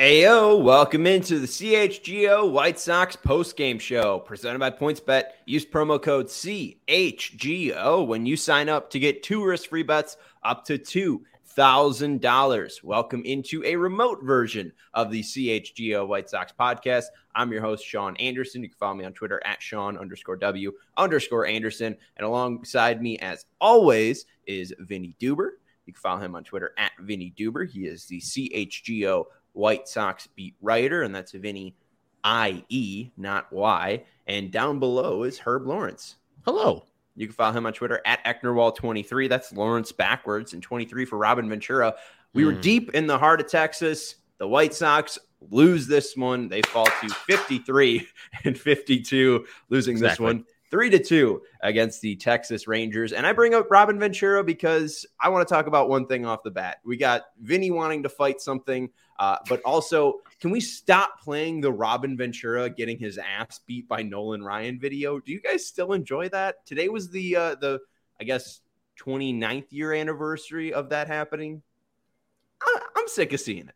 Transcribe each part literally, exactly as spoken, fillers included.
Heyo, welcome into the C H G O White Sox postgame show presented by PointsBet. Use promo code C H G O when you sign up to get two risk-free bets up to two thousand dollars. Welcome into a remote version of the C H G O White Sox podcast. I'm your host, Sean Anderson. You can follow me on Twitter at Sean underscore W underscore Anderson. And alongside me, as always, is Vinny Duber. You can follow him on Twitter at Vinny Duber. He is the C H G O White Sox beat writer, and that's Vinny I E, not Y. And down below is Herb Lawrence. Hello. You can follow him on Twitter at Ecknerwall twenty-three. That's Lawrence backwards, and twenty-three for Robin Ventura. We mm. were deep in the heart of Texas. The White Sox lose this one. They fall to fifty-three and fifty-two, losing exactly. this one three to two against the Texas Rangers. And I bring up Robin Ventura because I want to talk about one thing off the bat. We got Vinny wanting to fight something, uh, but also, can we stop playing the Robin Ventura getting his ass beat by Nolan Ryan video? Do you guys still enjoy that? Today was the, uh, the I guess, twenty-ninth year anniversary of that happening. I, I'm sick of seeing it.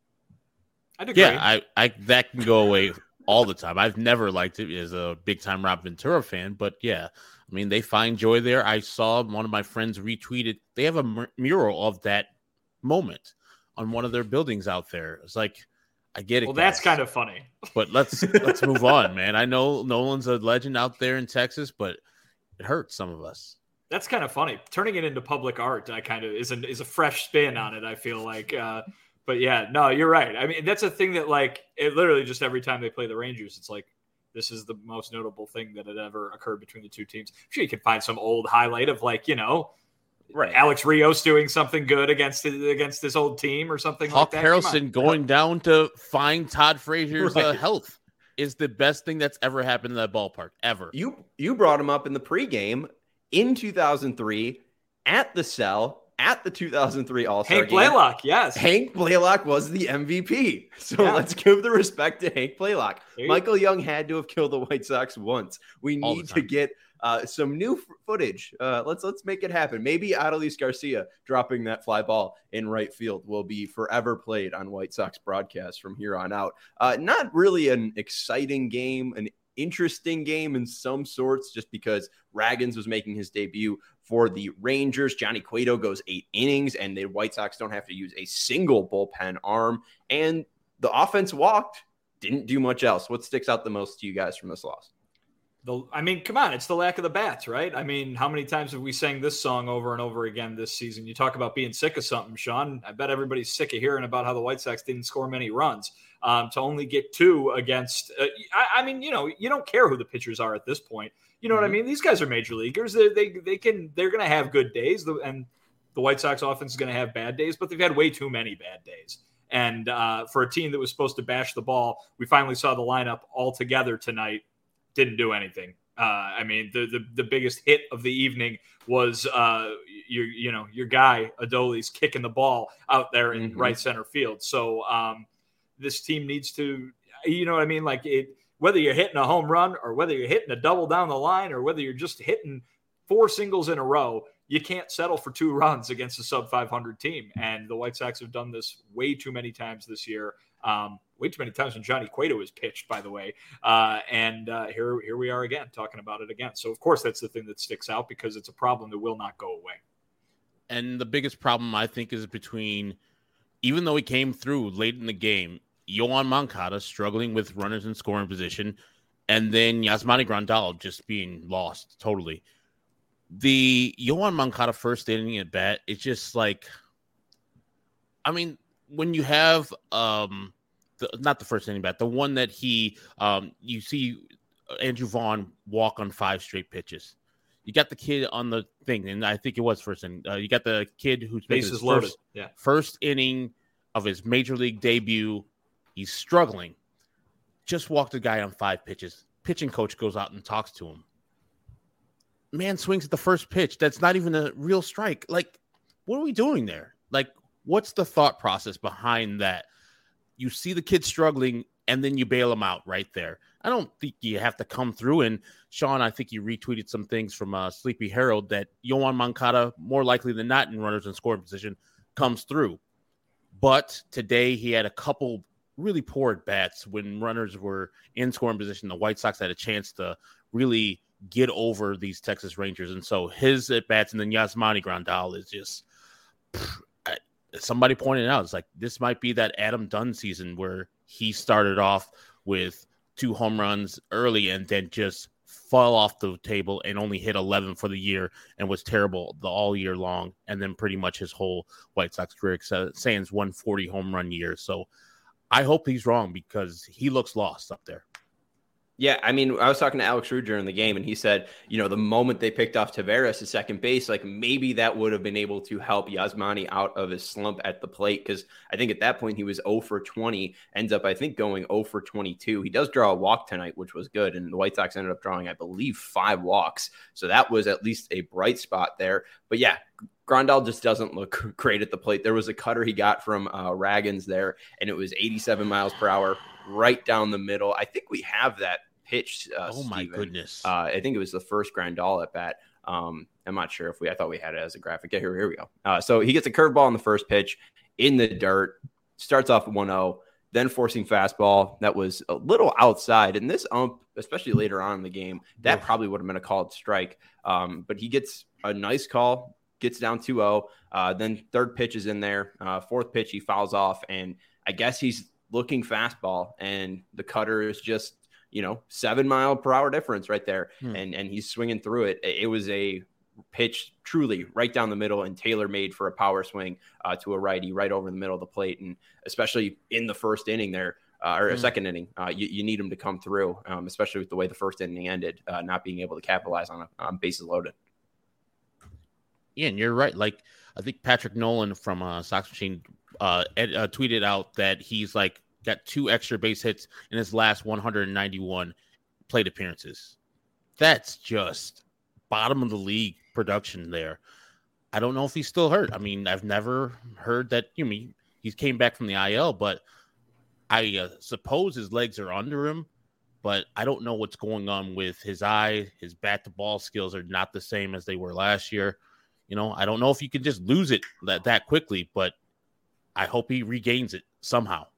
I'd agree. Yeah, I, I, that can go away all the time. I've never liked it as a big-time Rob Ventura fan, but yeah, I mean, they find joy there. I saw one of my friends retweeted. They have a mur- mural of that moment on one of their buildings out there. It's like, I get it. Well, guys, that's kind of funny. But let's let's move on, man. I know Nolan's a legend out there in Texas, but it hurts some of us. That's kind of funny. Turning it into public art, I kind of is a is a fresh spin on it. I feel like. Uh, But yeah, no, you're right. I mean, that's a thing that, like, it literally just every time they play the Rangers, it's like, this is the most notable thing that had ever occurred between the two teams. I'm sure you can find some old highlight of, like, you know, right, Alex Rios doing something good against against this old team or something Hawk like that. Harrelson going down to find Todd Frazier's right. uh, health is the best thing that's ever happened in that ballpark, ever. You you brought him up in the pregame in two thousand three at the Cell. At the two thousand three All-Star Hank game. Blaylock, yes. Hank Blaylock was the M V P. So yeah. let's give the respect to Hank Blaylock. Michael Young had to have killed the White Sox once. We need to get uh, some new f- footage. Uh, let's let's make it happen. Maybe Adolis Garcia dropping that fly ball in right field will be forever played on White Sox broadcasts from here on out. Uh, not really an exciting game, an interesting game in some sorts, just because Raggins was making his debut for the Rangers. Johnny Cueto goes eight innings, and the White Sox don't have to use a single bullpen arm. And the offense walked, didn't do much else. What sticks out the most to you guys from this loss? The, I mean, come on, it's the lack of the bats, right? I mean, how many times have we sang this song over and over again this season? You talk about being sick of something, Sean. I bet everybody's sick of hearing about how the White Sox didn't score many runs. Um, to only get two against, uh, I, I mean, you know, you don't care who the pitchers are at this point. You know mm-hmm. what I mean? These guys are major leaguers. They they, they can they're going to have good days, and the White Sox offense is going to have bad days, but they've had way too many bad days. And uh, for a team that was supposed to bash the ball, we finally saw the lineup all together tonight. Didn't do anything. Uh, I mean, the, the the biggest hit of the evening was uh, your you know your guy Adolis kicking the ball out there in mm-hmm. right center field. So um, this team needs to, you know what I mean, like it. Whether you're hitting a home run or whether you're hitting a double down the line or whether you're just hitting four singles in a row, you can't settle for two runs against a sub five hundred team. And the White Sox have done this way too many times this year. Um, way too many times when Johnny Cueto is pitched, by the way. Uh, and uh, here, here we are again talking about it again. So, of course, that's the thing that sticks out because it's a problem that will not go away. And the biggest problem, I think, is between, even though he came through late in the game, Yoan Moncada struggling with runners in scoring position, and then Yasmani Grandal just being lost totally. The Yoan Moncada first inning at bat, it's just like, I mean, when you have um, the, not the first inning bat, the one that he, um, you see Andrew Vaughn walk on five straight pitches. You got the kid on the thing, and I think it was first inning. Uh, you got the kid who's bases loaded, first, yeah, first inning of his major league debut. He's struggling. Just walked a guy on five pitches. Pitching coach goes out and talks to him. Man swings at the first pitch. That's not even a real strike. Like, what are we doing there? Like, what's the thought process behind that? You see the kid struggling, and then you bail him out right there. I don't think you have to come through. And, Sean, I think you retweeted some things from uh, Sleepy Harold that Yoan Moncada, more likely than not in runners in scoring position, comes through. But today he had a couple really poor at bats when runners were in scoring position. The White Sox had a chance to really get over these Texas Rangers. And so his at bats and then Yasmani Grandal is just pff, I, somebody pointed out, it's like, this might be that Adam Dunn season where he started off with two home runs early and then just fell off the table and only hit eleven for the year and was terrible the all year long. And then pretty much his whole White Sox career, sans one forty home run year. So I hope he's wrong because he looks lost up there. Yeah, I mean, I was talking to Alex Rude during the game, and he said, you know, the moment they picked off Taveras at second base, like maybe that would have been able to help Yasmani out of his slump at the plate, because I think at that point he was oh for twenty, ends up, I think, going oh for twenty-two. He does draw a walk tonight, which was good, and the White Sox ended up drawing, I believe, five walks. So that was at least a bright spot there. But yeah, Grandal just doesn't look great at the plate. There was a cutter he got from uh, Raggins there, and it was eighty-seven miles per hour right down the middle. I think we have that pitch. Uh, oh my Steven. goodness! Uh, I think it was the first Grandal at bat. Um, I'm not sure if we. I thought we had it as a graphic. Yeah, here, here we go. Uh, so he gets a curveball on the first pitch in the dirt. Starts off one oh, then forcing fastball that was a little outside. And this ump, especially later on in the game, that probably would have been a called strike. Um, but he gets a nice call. Gets down two oh. Uh, then third pitch is in there. Uh, fourth pitch, he fouls off. And I guess he's looking fastball. And the cutter is just, you know, seven mile per hour difference right there. Hmm. And and he's swinging through it. It was a pitch truly right down the middle and tailor-made for a power swing uh, to a righty right over the middle of the plate. And especially in the first inning there, uh, or a hmm. second inning, uh, you, you need him to come through, um, especially with the way the first inning ended, uh, not being able to capitalize on, a, on bases loaded. Yeah, and you're right. Like, I think Patrick Nolan from uh, Sox Machine uh, ed, uh, tweeted out that he's like got two extra base hits in his last one hundred ninety-one plate appearances. That's just bottom of the league production there. I don't know if he's still hurt. I mean, I've never heard that. You mean he came back from the I L, but I uh, suppose his legs are under him. But I don't know what's going on with his eye. His bat to ball skills are not the same as they were last year. You know, I don't know if you can just lose it that, that quickly, but I hope he regains it somehow.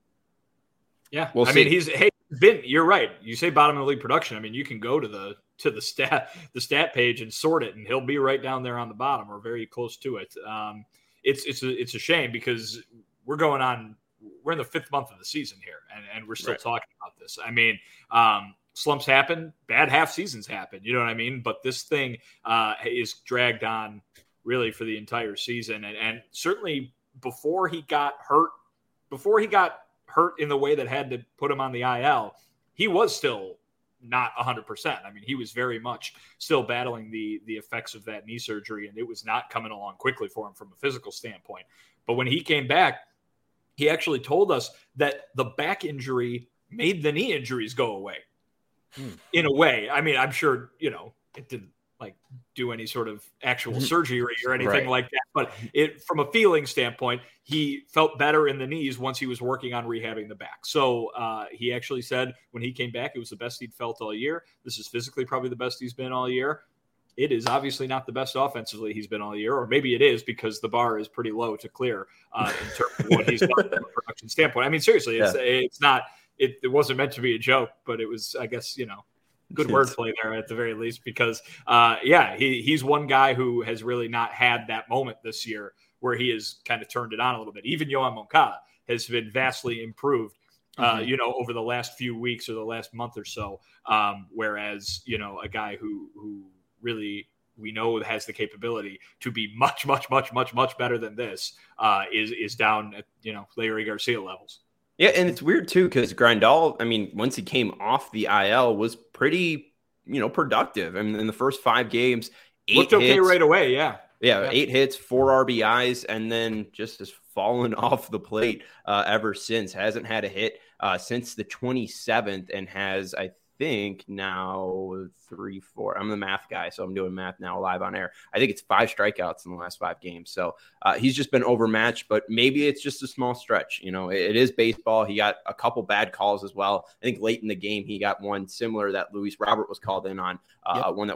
Yeah, we'll I see. mean, he's hey, Vin, you're right. You say bottom of the league production. I mean, you can go to the to the stat the stat page and sort it, and he'll be right down there on the bottom or very close to it. Um, it's it's a, it's a shame because we're going on. We're in the fifth month of the season here, and, and we're still right. talking about this. I mean, um, slumps happen, bad half seasons happen. You know what I mean? But this thing uh, is dragged on really for the entire season, and and certainly before he got hurt, before he got hurt in the way that had to put him on the I L, he was still not one hundred percent. I mean, he was very much still battling the the effects of that knee surgery, and it was not coming along quickly for him from a physical standpoint. But when he came back, he actually told us that the back injury made the knee injuries go away. Hmm. In a way. I mean, I'm sure, you know, it didn't like do any sort of actual surgery or anything right. like that. But it, from a feeling standpoint, he felt better in the knees once he was working on rehabbing the back. So uh, he actually said when he came back, it was the best he'd felt all year. This is physically probably the best he's been all year. It is obviously not the best offensively he's been all year, or maybe it is because the bar is pretty low to clear uh, in terms of what he's done from a production standpoint. I mean, seriously, it's, yeah. it's not, it, it wasn't meant to be a joke, but it was, I guess, you know, good wordplay there at the very least, because, uh, yeah, he he's one guy who has really not had that moment this year where he has kind of turned it on a little bit. Even Yoan Moncada has been vastly improved, uh, mm-hmm. you know, over the last few weeks or the last month or so. Um, whereas, you know, a guy who who really we know has the capability to be much, much, much, much, much better than this uh, is is down at, you know, Leury Garcia levels. Yeah, and it's weird, too, because Grandal, I mean, once he came off the I L, was pretty, you know, productive. I mean, in the first five games, eight Looked okay hits, right away, yeah. yeah. Yeah, eight hits, four R B Is, and then just has fallen off the plate uh, ever since. Hasn't had a hit uh, since the twenty-seventh and has, I think, now three, four. I'm the math guy, so I'm doing math now live on air. I think it's five strikeouts in the last five games. So uh, he's just been overmatched, but maybe it's just a small stretch. You know, it, it is baseball. He got a couple bad calls as well. I think late in the game, he got one similar that Luis Robert was called in on, uh, yep. one that was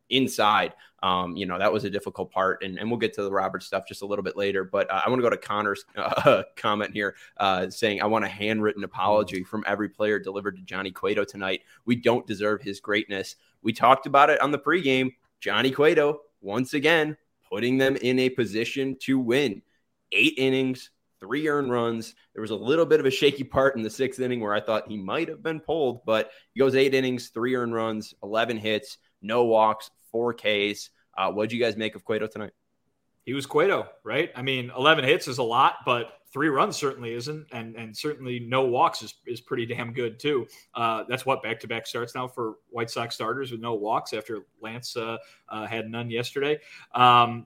inside. Um, you know, that was a difficult part, and, and we'll get to the Robert stuff just a little bit later. But uh, I want to go to Connor's uh, comment here uh, saying, I want a handwritten apology from every player delivered to Johnny Cueto tonight. We don't deserve his greatness. We talked about it on the pregame. Johnny Cueto, once again, putting them in a position to win. Eight innings, three earned runs. There was a little bit of a shaky part in the sixth inning where I thought he might have been pulled, but he goes eight innings, three earned runs, eleven hits, no walks, four Ks. Uh, what did you guys make of Cueto tonight? He was Cueto, right? I mean, eleven hits is a lot, but three runs certainly isn't, and and certainly no walks is, is pretty damn good too. Uh, that's what back-to-back starts now for White Sox starters with no walks after Lance uh, uh, had none yesterday. Um,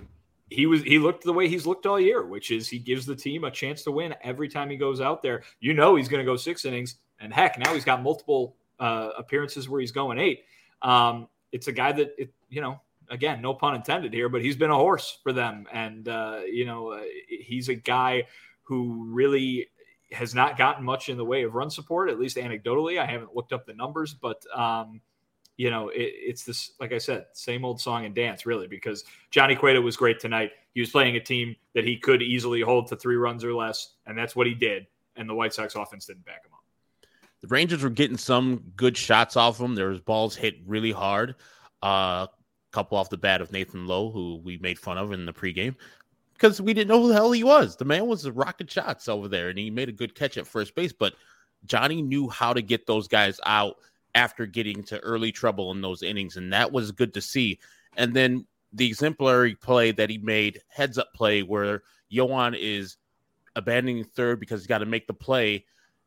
he was he looked the way he's looked all year, which is he gives the team a chance to win every time he goes out there. You know he's going to go six innings, and heck, now he's got multiple uh, appearances where he's going eight. Um, it's a guy that, it, you know, again, no pun intended here, but he's been a horse for them. And, uh, you know, uh, he's a guy who really has not gotten much in the way of run support, at least anecdotally. I haven't looked up the numbers, but, um, you know, it, it's this, like I said, same old song and dance, really, because Johnny Cueto was great tonight. He was playing a team that he could easily hold to three runs or less, and that's what he did. And the White Sox offense didn't back him up. The Rangers were getting some good shots off him. There was balls hit really hard. A uh, couple off the bat of Nathan Lowe, who we made fun of in the pregame because we didn't know who the hell he was. The man was rocket shots over there, and he made a good catch at first base. But Johnny knew how to get those guys out after getting to early trouble in those innings, and that was good to see. And then the exemplary play that he made, heads-up play, where Yoan is abandoning third because he's got to make the play,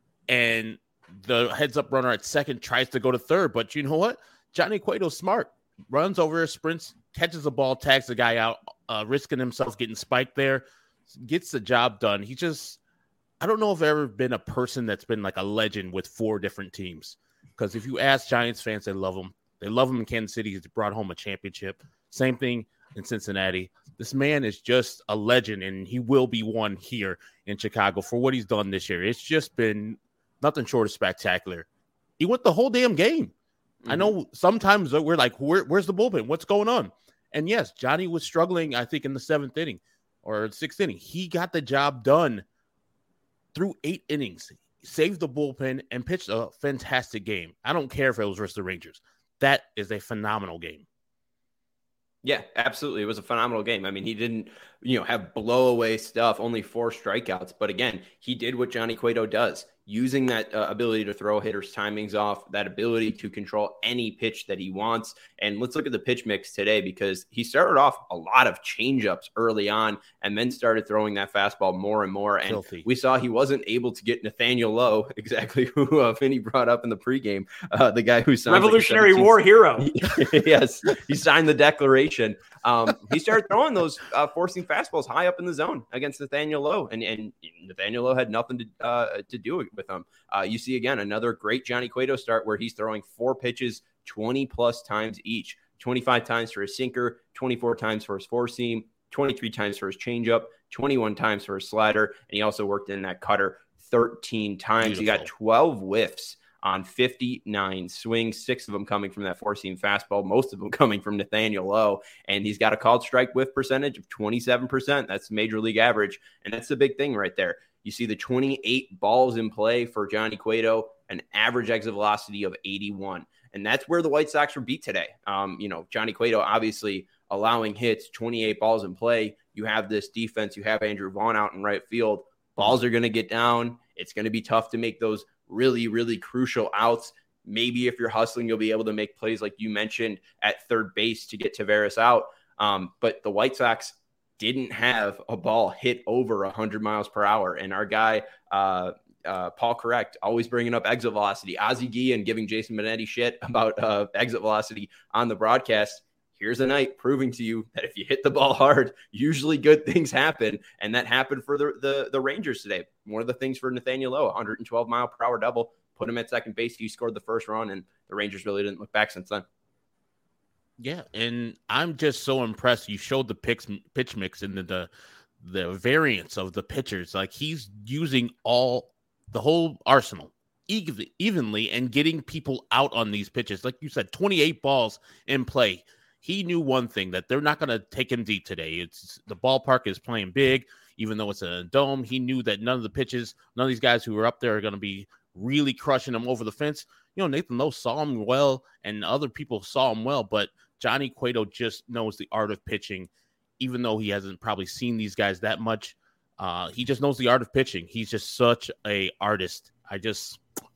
and the heads-up runner at second tries to go to third. But you know what? Johnny Cueto's smart. Runs over, sprints, catches the ball, tags the guy out, uh, risking himself getting spiked there, gets the job done. He just, I don't know if I've ever been a person that's been like a legend with four different teams. Because if you ask Giants fans, they love him. They love him in Kansas City. He's brought home a championship. Same thing in Cincinnati. This man is just a legend, and he will be one here in Chicago for what he's done this year. It's just been nothing short of spectacular. He went the whole damn game. I know sometimes we're like, Where, where's the bullpen? What's going on? And yes, Johnny was struggling, I think, in the seventh inning or sixth inning. He got the job done through eight innings, saved the bullpen, and pitched a fantastic game. I don't care if it was versus the Rangers. That is a phenomenal game. Yeah, absolutely. It was a phenomenal game. I mean, he didn't, you know, have blow away stuff, only four strikeouts. But again, he did what Johnny Cueto does, using that uh, ability to throw hitters' timings off, that ability to control any pitch that he wants. And let's look at the pitch mix today, because he started off a lot of changeups early on and then started throwing that fastball more and more. And Filthy. We saw he wasn't able to get Nathaniel Lowe, exactly who uh, Vinny brought up in the pregame, uh, the guy who signed Revolutionary like War hero. Yes, he signed the declaration. Um, he started throwing those uh, forcing fastballs high up in the zone against Nathaniel Lowe, and, and Nathaniel Lowe had nothing to uh, to do with him. Uh, you see, again, another great Johnny Cueto start where he's throwing four pitches twenty plus times each, twenty-five times for his sinker, twenty-four times for his four seam, twenty-three times for his changeup, twenty-one times for his slider, and he also worked in that cutter thirteen times. Beautiful. He got twelve whiffs on fifty-nine swings, six of them coming from that four-seam fastball, most of them coming from Nathaniel Lowe, and he's got a called strike whiff percentage of twenty-seven percent. That's major league average, and that's the big thing right there. You see the twenty-eight balls in play for Johnny Cueto, an average exit velocity of eighty-one, and that's where the White Sox were beat today. Um, you know, Johnny Cueto obviously allowing hits, twenty-eight balls in play. You have this defense, you have Andrew Vaughn out in right field. Balls are going to get down. It's going to be tough to make those really, really crucial outs. Maybe if you're hustling, you'll be able to make plays like you mentioned at third base to get Taveras out. Um, but the White Sox didn't have a ball hit over one hundred miles per hour. And our guy, uh, uh, Paul Correct, always bringing up exit velocity. Ozzie Guillen giving Jason Benetti shit about uh, exit velocity on the broadcast. Here's a night proving to you that if you hit the ball hard, usually good things happen. And that happened for the, the, the Rangers today. One of the things for Nathaniel Lowe, one hundred twelve mile per hour double, put him at second base. He scored the first run, and the Rangers really didn't look back since then. Yeah, and I'm just so impressed. You showed the pitch, pitch mix and the, the the variance of the pitchers. Like, he's using all the whole arsenal evenly, evenly and getting people out on these pitches. Like you said, twenty-eight balls in play. he knew one thing, that they're not going to take him deep today. It's the ballpark is playing big, even though it's a dome. He knew that none of the pitches, none of these guys who were up there are going to be really crushing him over the fence. You know, Nathan Lowe saw him well, and other people saw him well, but Johnny Cueto just knows the art of pitching, even though he hasn't probably seen these guys that much. Uh, he just knows the art of pitching. He's just such a artist. I just,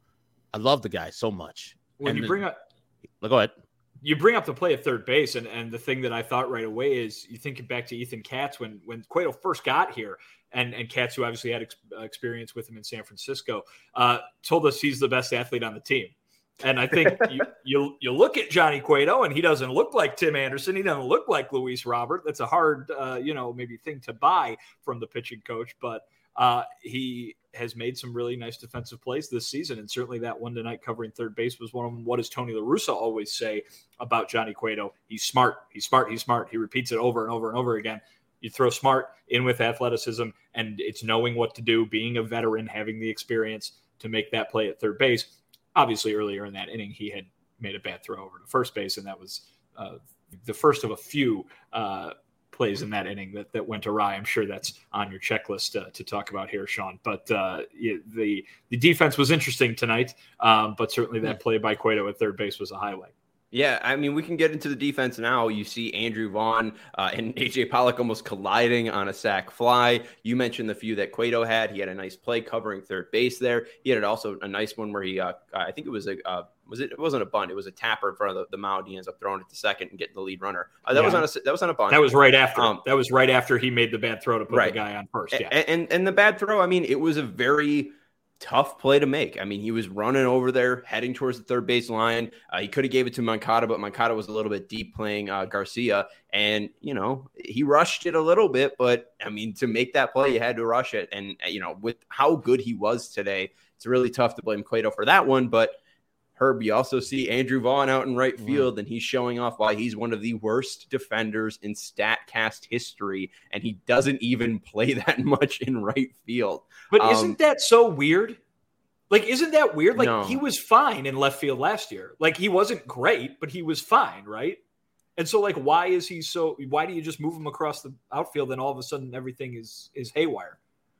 I love the guy so much. When and you the, bring up, go ahead. You bring up the play at third base, and, and the thing that I thought right away is you think back to Ethan Katz when when Cueto first got here, and and Katz, who obviously had ex- experience with him in San Francisco, uh, told us he's the best athlete on the team. And I think you, you you look at Johnny Cueto, and he doesn't look like Tim Anderson. He doesn't look like Luis Robert. That's a hard, uh, you know, maybe thing to buy from the pitching coach, but uh, he has made some really nice defensive plays this season. And certainly that one tonight covering third base was one of them. What does Tony La Russa always say about Johnny Cueto? He's smart. He's smart. He's smart. He repeats it over and over and over again. You throw smart in with athleticism, and it's knowing what to do, being a veteran, having the experience to make that play at third base. Obviously, earlier in that inning, he had made a bad throw over to first base, and that was uh, the first of a few uh, plays in that inning that, that went awry. I'm sure that's on your checklist uh, to talk about here, Sean. But uh, the the defense was interesting tonight, um, but certainly that play by Cueto at third base was a highlight. Yeah, I mean, we can get into the defense now. You see Andrew Vaughn uh, and A J Pollock almost colliding on a sac fly. You mentioned the few that Cueto had. He had a nice play covering third base there. He had also a nice one where he, uh, I think it was a, uh, was it? It wasn't a bunt. It was a tapper in front of the, the mound. He ends up throwing it to second and getting the lead runner. Uh, that yeah. was on a that was on a bunt. That was right after. Um, that was right after he made the bad throw to put right. the guy on first. Yeah, and, and and the bad throw. I mean, it was a very tough play to make. I mean, he was running over there, heading towards the third base line. Uh, he could have gave it to Moncada, but Moncada was a little bit deep playing uh, Garcia. And, you know, he rushed it a little bit, but I mean, to make that play, you had to rush it. And, you know, with how good he was today, it's really tough to blame Cueto for that one. But Herb, you also see Andrew Vaughn out in right field, and he's showing off why he's one of the worst defenders in StatCast history, and he doesn't even play that much in right field. But um, isn't that so weird? Like, isn't that weird? Like, no. He was fine in left field last year. Like, he wasn't great, but he was fine, right? And so, like, why is he so – why do you just move him across the outfield and all of a sudden everything is is haywire?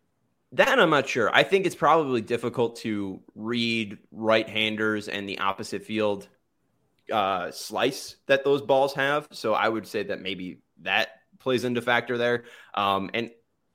That I'm not sure. I think it's probably difficult to read right-handers and the opposite field uh, slice that those balls have. So I would say that maybe that plays into factor there. Um, and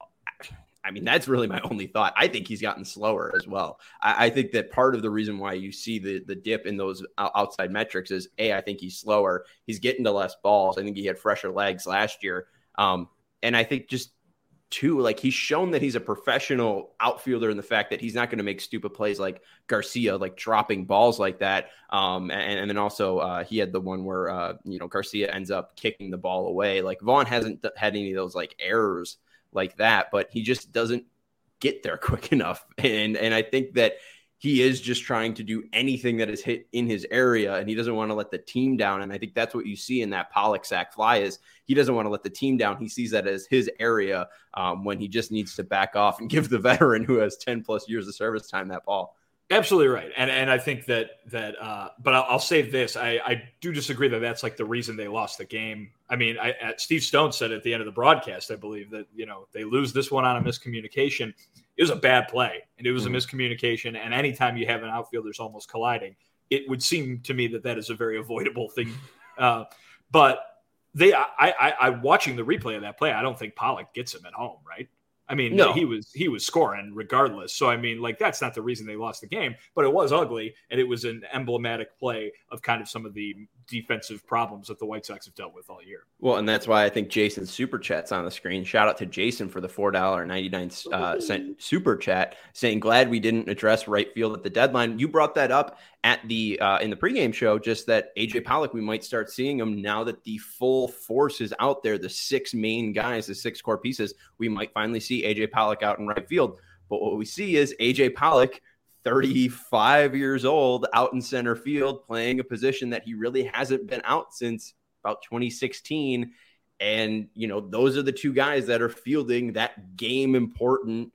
I mean, that's really my only thought. I think he's gotten slower as well. I, I think that part of the reason why you see the the dip in those outside metrics is, A, I think he's slower. He's getting to less balls. I think he had fresher legs last year. Um, and I think just Two, like he's shown that he's a professional outfielder in the fact that he's not going to make stupid plays like Garcia, like dropping balls like that. Um, and, and then also uh, he had the one where, uh, you know, Garcia ends up kicking the ball away. Like Vaughn hasn't had any of those like errors like that, but he just doesn't get there quick enough. And, and I think that he is just trying to do anything that is hit in his area, and he doesn't want to let the team down. And I think that's what you see in that Pollock sac fly is he doesn't want to let the team down. He sees that as his area um, when he just needs to back off and give the veteran who has ten plus years of service time that ball. Absolutely right. And and I think that, that uh, but I'll, I'll say this. I, I do disagree that that's like the reason they lost the game. I mean, I, at Steve Stone said at the end of the broadcast, I believe that, you know, they lose this one on a miscommunication. It was a bad play and it was mm-hmm. a miscommunication. And anytime you have an outfielders almost colliding, it would seem to me that that is a very avoidable thing. Uh, but they, I, I, I watching the replay of that play, I don't think Pollock gets him at home. Right. I mean, no. he was he was scoring regardless. So, I mean, like, that's not the reason they lost the game, but it was ugly, and it was an emblematic play of kind of some of the defensive problems that the White Sox have dealt with all year. Well, and that's why I think Jason's Super Chat's on the screen. Shout out to Jason for the four dollars and ninety-nine cents uh, cent Super Chat, saying, glad we didn't address right field at the deadline. You brought that up at the uh, in the pregame show, just that A J Pollock, we might start seeing him now that the full force is out there, the six main guys, the six core pieces. We might finally see A J Pollock out in right field. But what we see is A J Pollock, thirty-five years old, out in center field, playing a position that he really hasn't been out since about twenty sixteen. And, you know, those are the two guys that are fielding that game important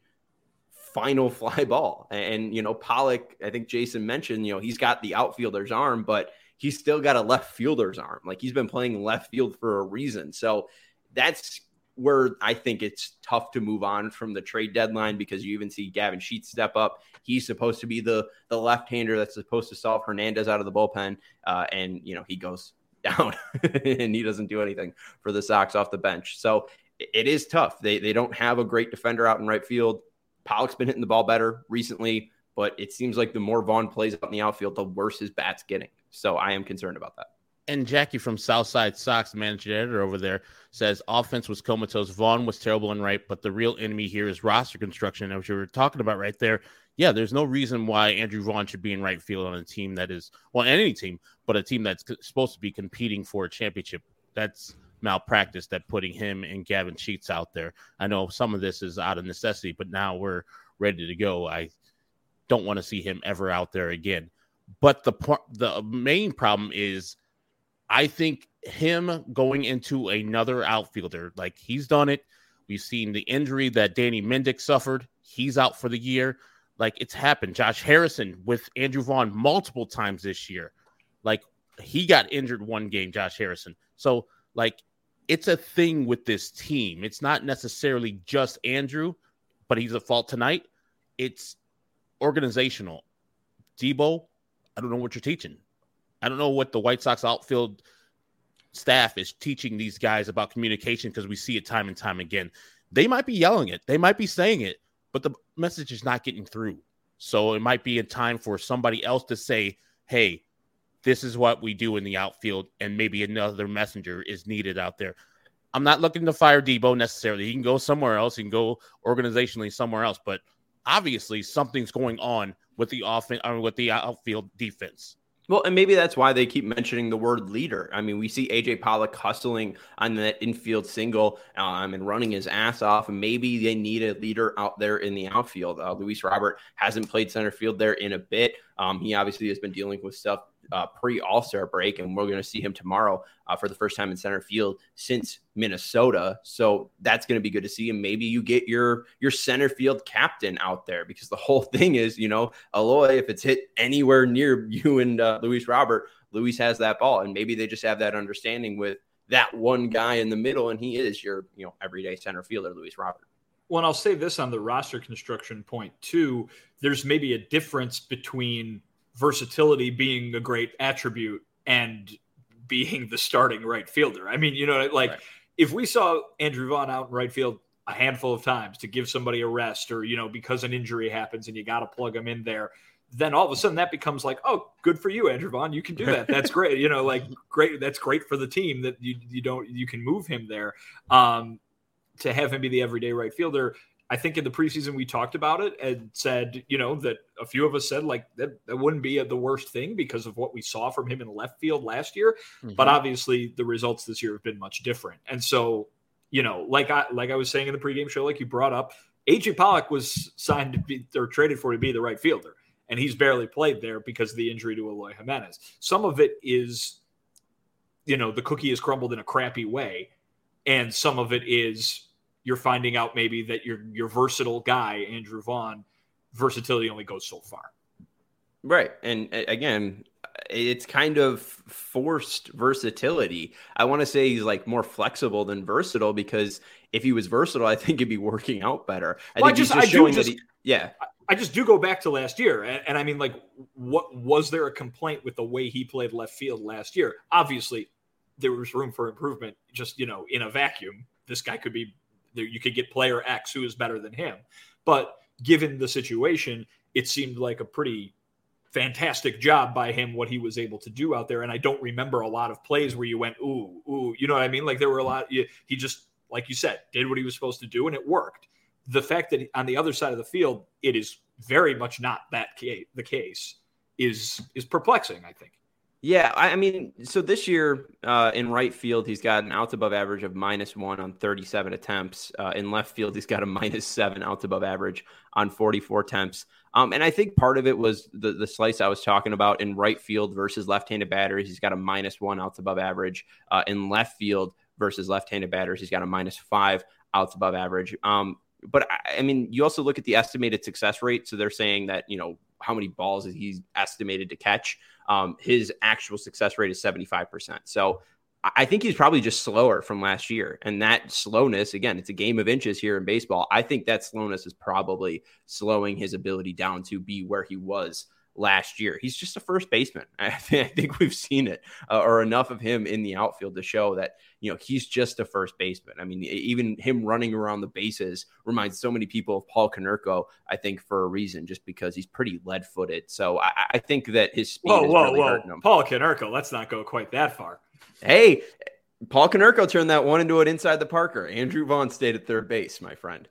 final fly ball. And, you know, Pollock, I think Jason mentioned, you know, he's got the outfielder's arm, but he's still got a left fielder's arm. Like he's been playing left field for a reason. So that's where I think it's tough to move on from the trade deadline, because you even see Gavin Sheets step up. He's supposed to be the the left-hander that's supposed to solve Hernandez out of the bullpen. Uh, and, you know, he goes down and he doesn't do anything for the Sox off the bench. So it is tough. They they don't have a great defender out in right field. Pollock's been hitting the ball better recently, but it seems like the more Vaughn plays out in the outfield, the worse his bat's getting. So I am concerned about that. And Jackie from Southside Sox, managing editor over there, says offense was comatose. Vaughn was terrible and right, but the real enemy here is roster construction. As you were talking about right there, yeah, there's no reason why Andrew Vaughn should be in right field on a team that is, well, any team, but a team that's supposed to be competing for a championship. That's malpractice, that putting him and Gavin Sheets out there. I know some of this is out of necessity, but now we're ready to go. I don't want to see him ever out there again. But the the main problem is, I think him going into another outfielder, like he's done it. We've seen the injury that Danny Mendick suffered. He's out for the year. Like it's happened. Josh Harrison with Andrew Vaughn multiple times this year. Like he got injured one game, Josh Harrison. So like it's a thing with this team. It's not necessarily just Andrew, but he's at fault tonight. It's organizational. Debo, I don't know what you're teaching. I don't know what the White Sox outfield staff is teaching these guys about communication, because we see it time and time again. They might be yelling it. They might be saying it, but the message is not getting through. So it might be a time for somebody else to say, hey, this is what we do in the outfield, and maybe another messenger is needed out there. I'm not looking to fire Debo necessarily. He can go somewhere else. He can go organizationally somewhere else, but obviously something's going on with the offense, or with the outfield defense. Well, and maybe that's why they keep mentioning the word leader. I mean, we see A J Pollock hustling on that infield single um, and running his ass off. And maybe they need a leader out there in the outfield. Uh, Luis Robert hasn't played center field there in a bit. Um, he obviously has been dealing with stuff uh, pre-All-Star break, and we're going to see him tomorrow uh, for the first time in center field since Minnesota. So that's going to be good to see. And maybe you get your your center field captain out there, because the whole thing is, you know, Eloy, if it's hit anywhere near you and uh, Luis Robert, Luis has that ball. And maybe they just have that understanding with that one guy in the middle, and he is your, you know, everyday center fielder, Luis Robert. Well, and I'll say this on the roster construction point too. There's maybe a difference between versatility being a great attribute and being the starting right fielder. I mean, you know, like right. If we saw Andrew Vaughn out in right field a handful of times to give somebody a rest, or, you know, because an injury happens and you got to plug him in there, then all of a sudden that becomes like, oh, good for you, Andrew Vaughn. You can do that. That's great. You know, like great. That's great for the team that you, you don't, you can move him there. Um, to have him be the everyday right fielder. I think in the preseason we talked about it and said, you know, that a few of us said like that, that wouldn't be a, the worst thing because of what we saw from him in left field last year. Mm-hmm. But obviously the results this year have been much different. And so, you know, like I, like I was saying in the pregame show, like you brought up, A J Pollock was signed to be or traded for to be the right fielder. And he's barely played there because of the injury to Eloy Jimenez. Some of it is, you know, the cookie is crumbled in a crappy way. And some of it is you're finding out maybe that your your versatile guy, Andrew Vaughn, versatility only goes so far. Right. And again, it's kind of forced versatility. I want to say he's like more flexible than versatile, because if he was versatile, I think it'd be working out better. I well, think I just, he's just I showing just, that he, yeah. I just do go back to last year. And, and I mean, like, what was there a complaint with the way he played left field last year? Obviously, there was room for improvement. Just, you know, in a vacuum, this guy could be there. You could get player X who is better than him. But given the situation, it seemed like a pretty fantastic job by him, what he was able to do out there. And I don't remember a lot of plays where you went, ooh, ooh, you know what I mean? Like there were a lot, he just, like you said, did what he was supposed to do and it worked. The fact that on the other side of the field, it is very much not that case, the case is, is perplexing, I think. Yeah, I mean, so this year uh, in right field, he's got an outs above average of minus one on thirty-seven attempts. Uh, in left field, he's got a minus seven outs above average on forty-four attempts. Um, and I think part of it was the, the slice I was talking about in right field versus left-handed batters. He's got a minus one outs above average. Uh, in left field versus left-handed batters, he's got a minus five outs above average. Um, but, I, I mean, you also look at the estimated success rate. So they're saying that, you know, how many balls is he estimated to catch Um, his actual success rate is seventy-five percent. So I think he's probably just slower from last year. And that slowness, again, it's a game of inches here in baseball. I think that slowness is probably slowing his ability down to be where he was last year. He's just a first baseman. I, th- I think we've seen it uh, or enough of him in the outfield to show that, you know, he's just a first baseman. I mean, even him running around the bases reminds so many people of Paul Konerko, I think, for a reason, just because he's pretty lead footed. So I, I think that his speed whoa, is whoa, really whoa. hurting him. Paul Konerko, let's not go quite that far. Hey, Paul Konerko turned that one into an inside the Parker. Andrew Vaughn stayed at third base, my friend.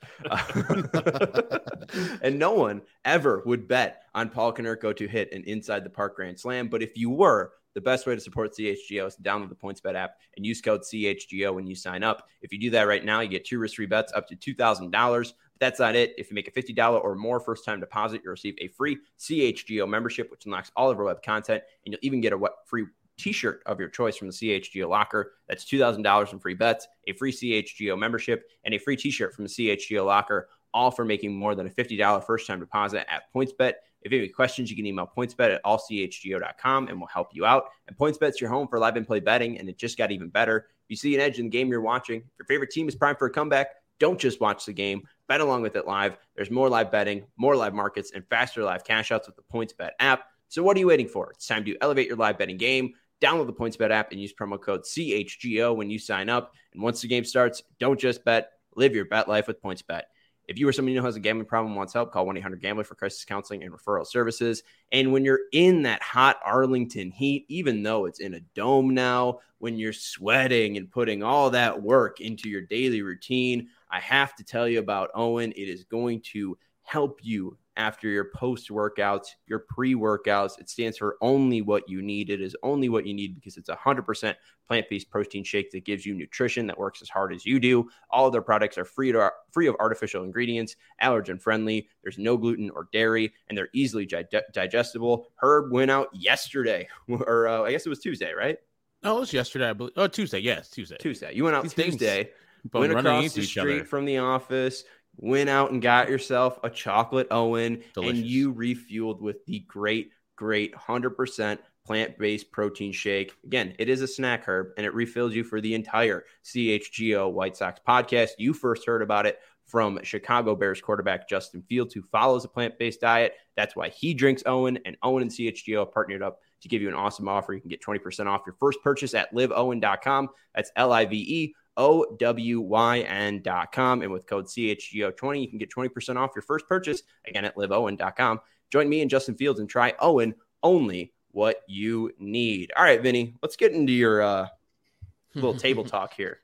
Uh, and no one ever would bet on Paul Konerko to hit an inside the park grand slam. But if you were, the best way to support C H G O is to download the PointsBet app and use code C H G O when you sign up. If you do that right now, you get two risk-free bets up to two thousand dollars. But that's not it. If you make a fifty dollars or more first-time deposit, you'll receive a free C H G O membership, which unlocks all of our web content, and you'll even get a free T-shirt of your choice from the C H G O locker. That's two thousand dollars in free bets, a free C H G O membership, and a free T-shirt from the C H G O locker, all for making more than a fifty dollars first-time deposit at PointsBet. If you have any questions, you can email PointsBet at all c h g o dot com, and we'll help you out. And PointsBet's your home for live and play betting, and it just got even better. If you see an edge in the game you're watching, if your favorite team is primed for a comeback, don't just watch the game. Bet along with it live. There's more live betting, more live markets, and faster live cash outs with the PointsBet app. So what are you waiting for? It's time to elevate your live betting game. Download the PointsBet app and use promo code C H G O when you sign up. And once the game starts, don't just bet. Live your bet life with PointsBet. If you or someone you know has a gambling problem and wants help, call one eight hundred gambler for crisis counseling and referral services. And when you're in that hot Arlington heat, even though it's in a dome now, when you're sweating and putting all that work into your daily routine, I have to tell you about Owen. It is going to help you after your post-workouts, your pre-workouts. It stands for only what you need. It is only what you need because it's a one hundred percent plant-based protein shake that gives you nutrition that works as hard as you do. All of their products are free to, free of artificial ingredients, allergen-friendly. There's no gluten or dairy, and they're easily gi- digestible. Herb went out yesterday, or uh, I guess it was Tuesday, right? Oh, it was yesterday, I believe. Oh, Tuesday. Yes, Tuesday. Tuesday. You went out These Tuesday, went went across the street other. from the office, went out and got yourself a chocolate Owen, Delicious. And you refueled with the great, great one hundred percent plant-based protein shake. Again, it is a snack, Herb, and it refills you for the entire C H G O White Sox podcast. You first heard about it from Chicago Bears quarterback Justin Fields, who follows a plant-based diet. That's why he drinks Owen, and Owen and C H G O partnered up to give you an awesome offer. You can get twenty percent off your first purchase at live owen dot com. That's L I V E O W Y N dot com. And with code C H G O twenty, you can get twenty percent off your first purchase, again, at live owen dot com. Join me and Justin Fields and try Owen, only what you need. All right, Vinny, let's get into your uh, little table talk here.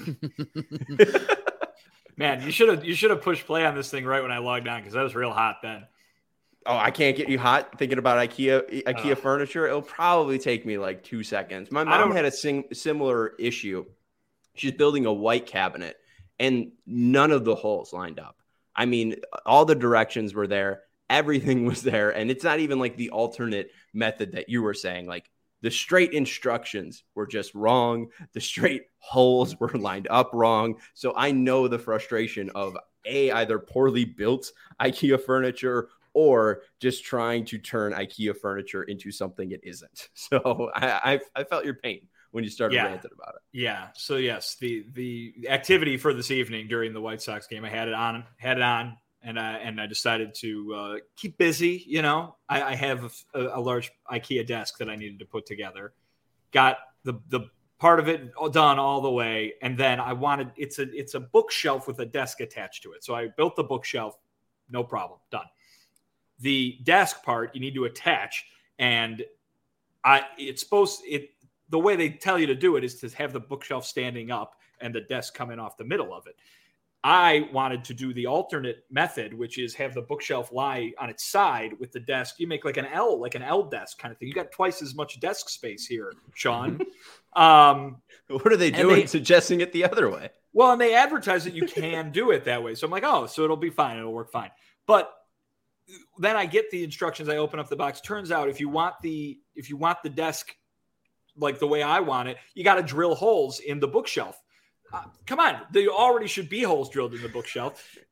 Man, you should have you should have pushed play on this thing right when I logged on because that was real hot then. Oh, I can't get you hot thinking about IKEA IKEA uh, furniture. It'll probably take me like two seconds. My mom had a sing- similar issue. She's building a white cabinet, and none of the holes lined up. I mean, all the directions were there. Everything was there. And it's not even like the alternate method that you were saying. Like, the straight instructions were just wrong. The straight holes were lined up wrong. So I know the frustration of A, either poorly built IKEA furniture or just trying to turn IKEA furniture into something it isn't. So I, I, I felt your pain when you started yeah. ranting about it. Yeah. So yes, the the activity for this evening during the White Sox game, I had it on, had it on, and I and I decided to uh, keep busy. You know, I, I have a, a large IKEA desk that I needed to put together. Got the the part of it done all the way, and then I wanted it's a it's a bookshelf with a desk attached to it. So I built the bookshelf, no problem, done. The desk part you need to attach, and I it's supposed it. The way they tell you to do it is to have the bookshelf standing up and the desk coming off the middle of it. I wanted to do the alternate method, which is have the bookshelf lie on its side with the desk. You make like an L, like an L desk kind of thing. You got twice as much desk space here, Sean. um, what are they doing they, suggesting it the other way? Well, and they advertise that you can do it that way. So I'm like, oh, so it'll be fine. It'll work fine. But then I get the instructions. I open up the box. Turns out if you want the if you want the desk like the way I want it, you got to drill holes in the bookshelf. Uh, come on. There already should be holes drilled in the bookshelf.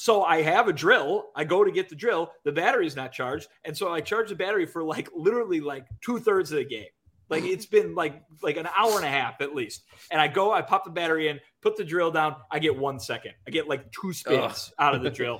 So I have a drill. I go to get the drill. The battery's not charged. And so I charge the battery for like literally like two thirds of the game. Like it's been like like an hour and a half at least. And I go, I pop the battery in, put the drill down. I get one second. I get like two spins Ugh. out of the drill.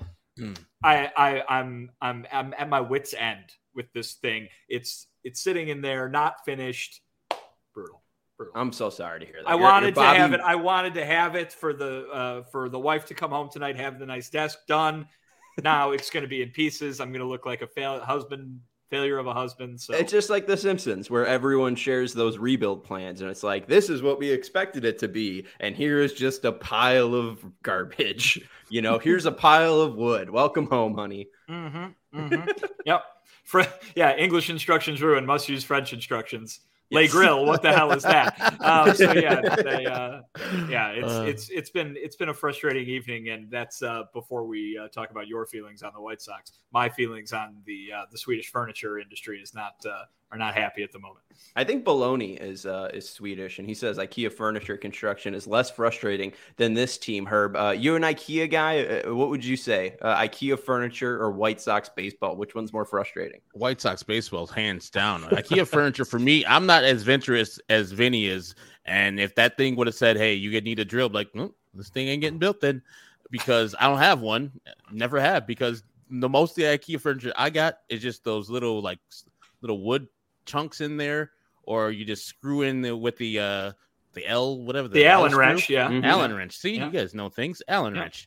I, I I'm I'm I'm at my wit's end with this thing. It's it's sitting in there, not finished. Brutal. Brutal. I'm so sorry to hear that. I you're, wanted you're to Bobby... have it. I wanted to have it for the uh, for the wife to come home tonight, have the nice desk done. Now it's going to be in pieces. I'm going to look like a fail husband. Failure of a husband. So it's just like The Simpsons, where everyone shares those rebuild plans, and it's like, this is what we expected it to be, and here is just a pile of garbage. You know, here's a pile of wood. Welcome home, honey. Mm-hmm. Mm-hmm. Yep. For, yeah. English instructions ruined. Must use French instructions. Lay grill. What the hell is that? Um, so yeah, they, uh, yeah, it's uh, it's it's been it's been a frustrating evening, and that's uh, before we uh, talk about your feelings on the White Sox. My feelings on the uh, the Swedish furniture industry is not uh, are not happy at the moment. I think Baloney is uh, is Swedish, and he says IKEA furniture construction is less frustrating than this team. Herb, uh, you're an IKEA guy. Uh, what would you say? Uh, IKEA furniture or White Sox baseball? Which one's more frustrating? White Sox baseball, hands down. IKEA furniture for me. I'm not as venturous as Vinny is, and if that thing would have said, "Hey, you need a drill," like, well, this thing ain't getting built then, because I don't have one. Never have, because the most of the IKEA furniture I got is just those little like little wood chunks in there, or you just screw in the, with the uh the L whatever the, the Allen wrench, yeah, mm-hmm. Allen yeah. wrench. See, yeah. you guys know things. Allen yeah. wrench.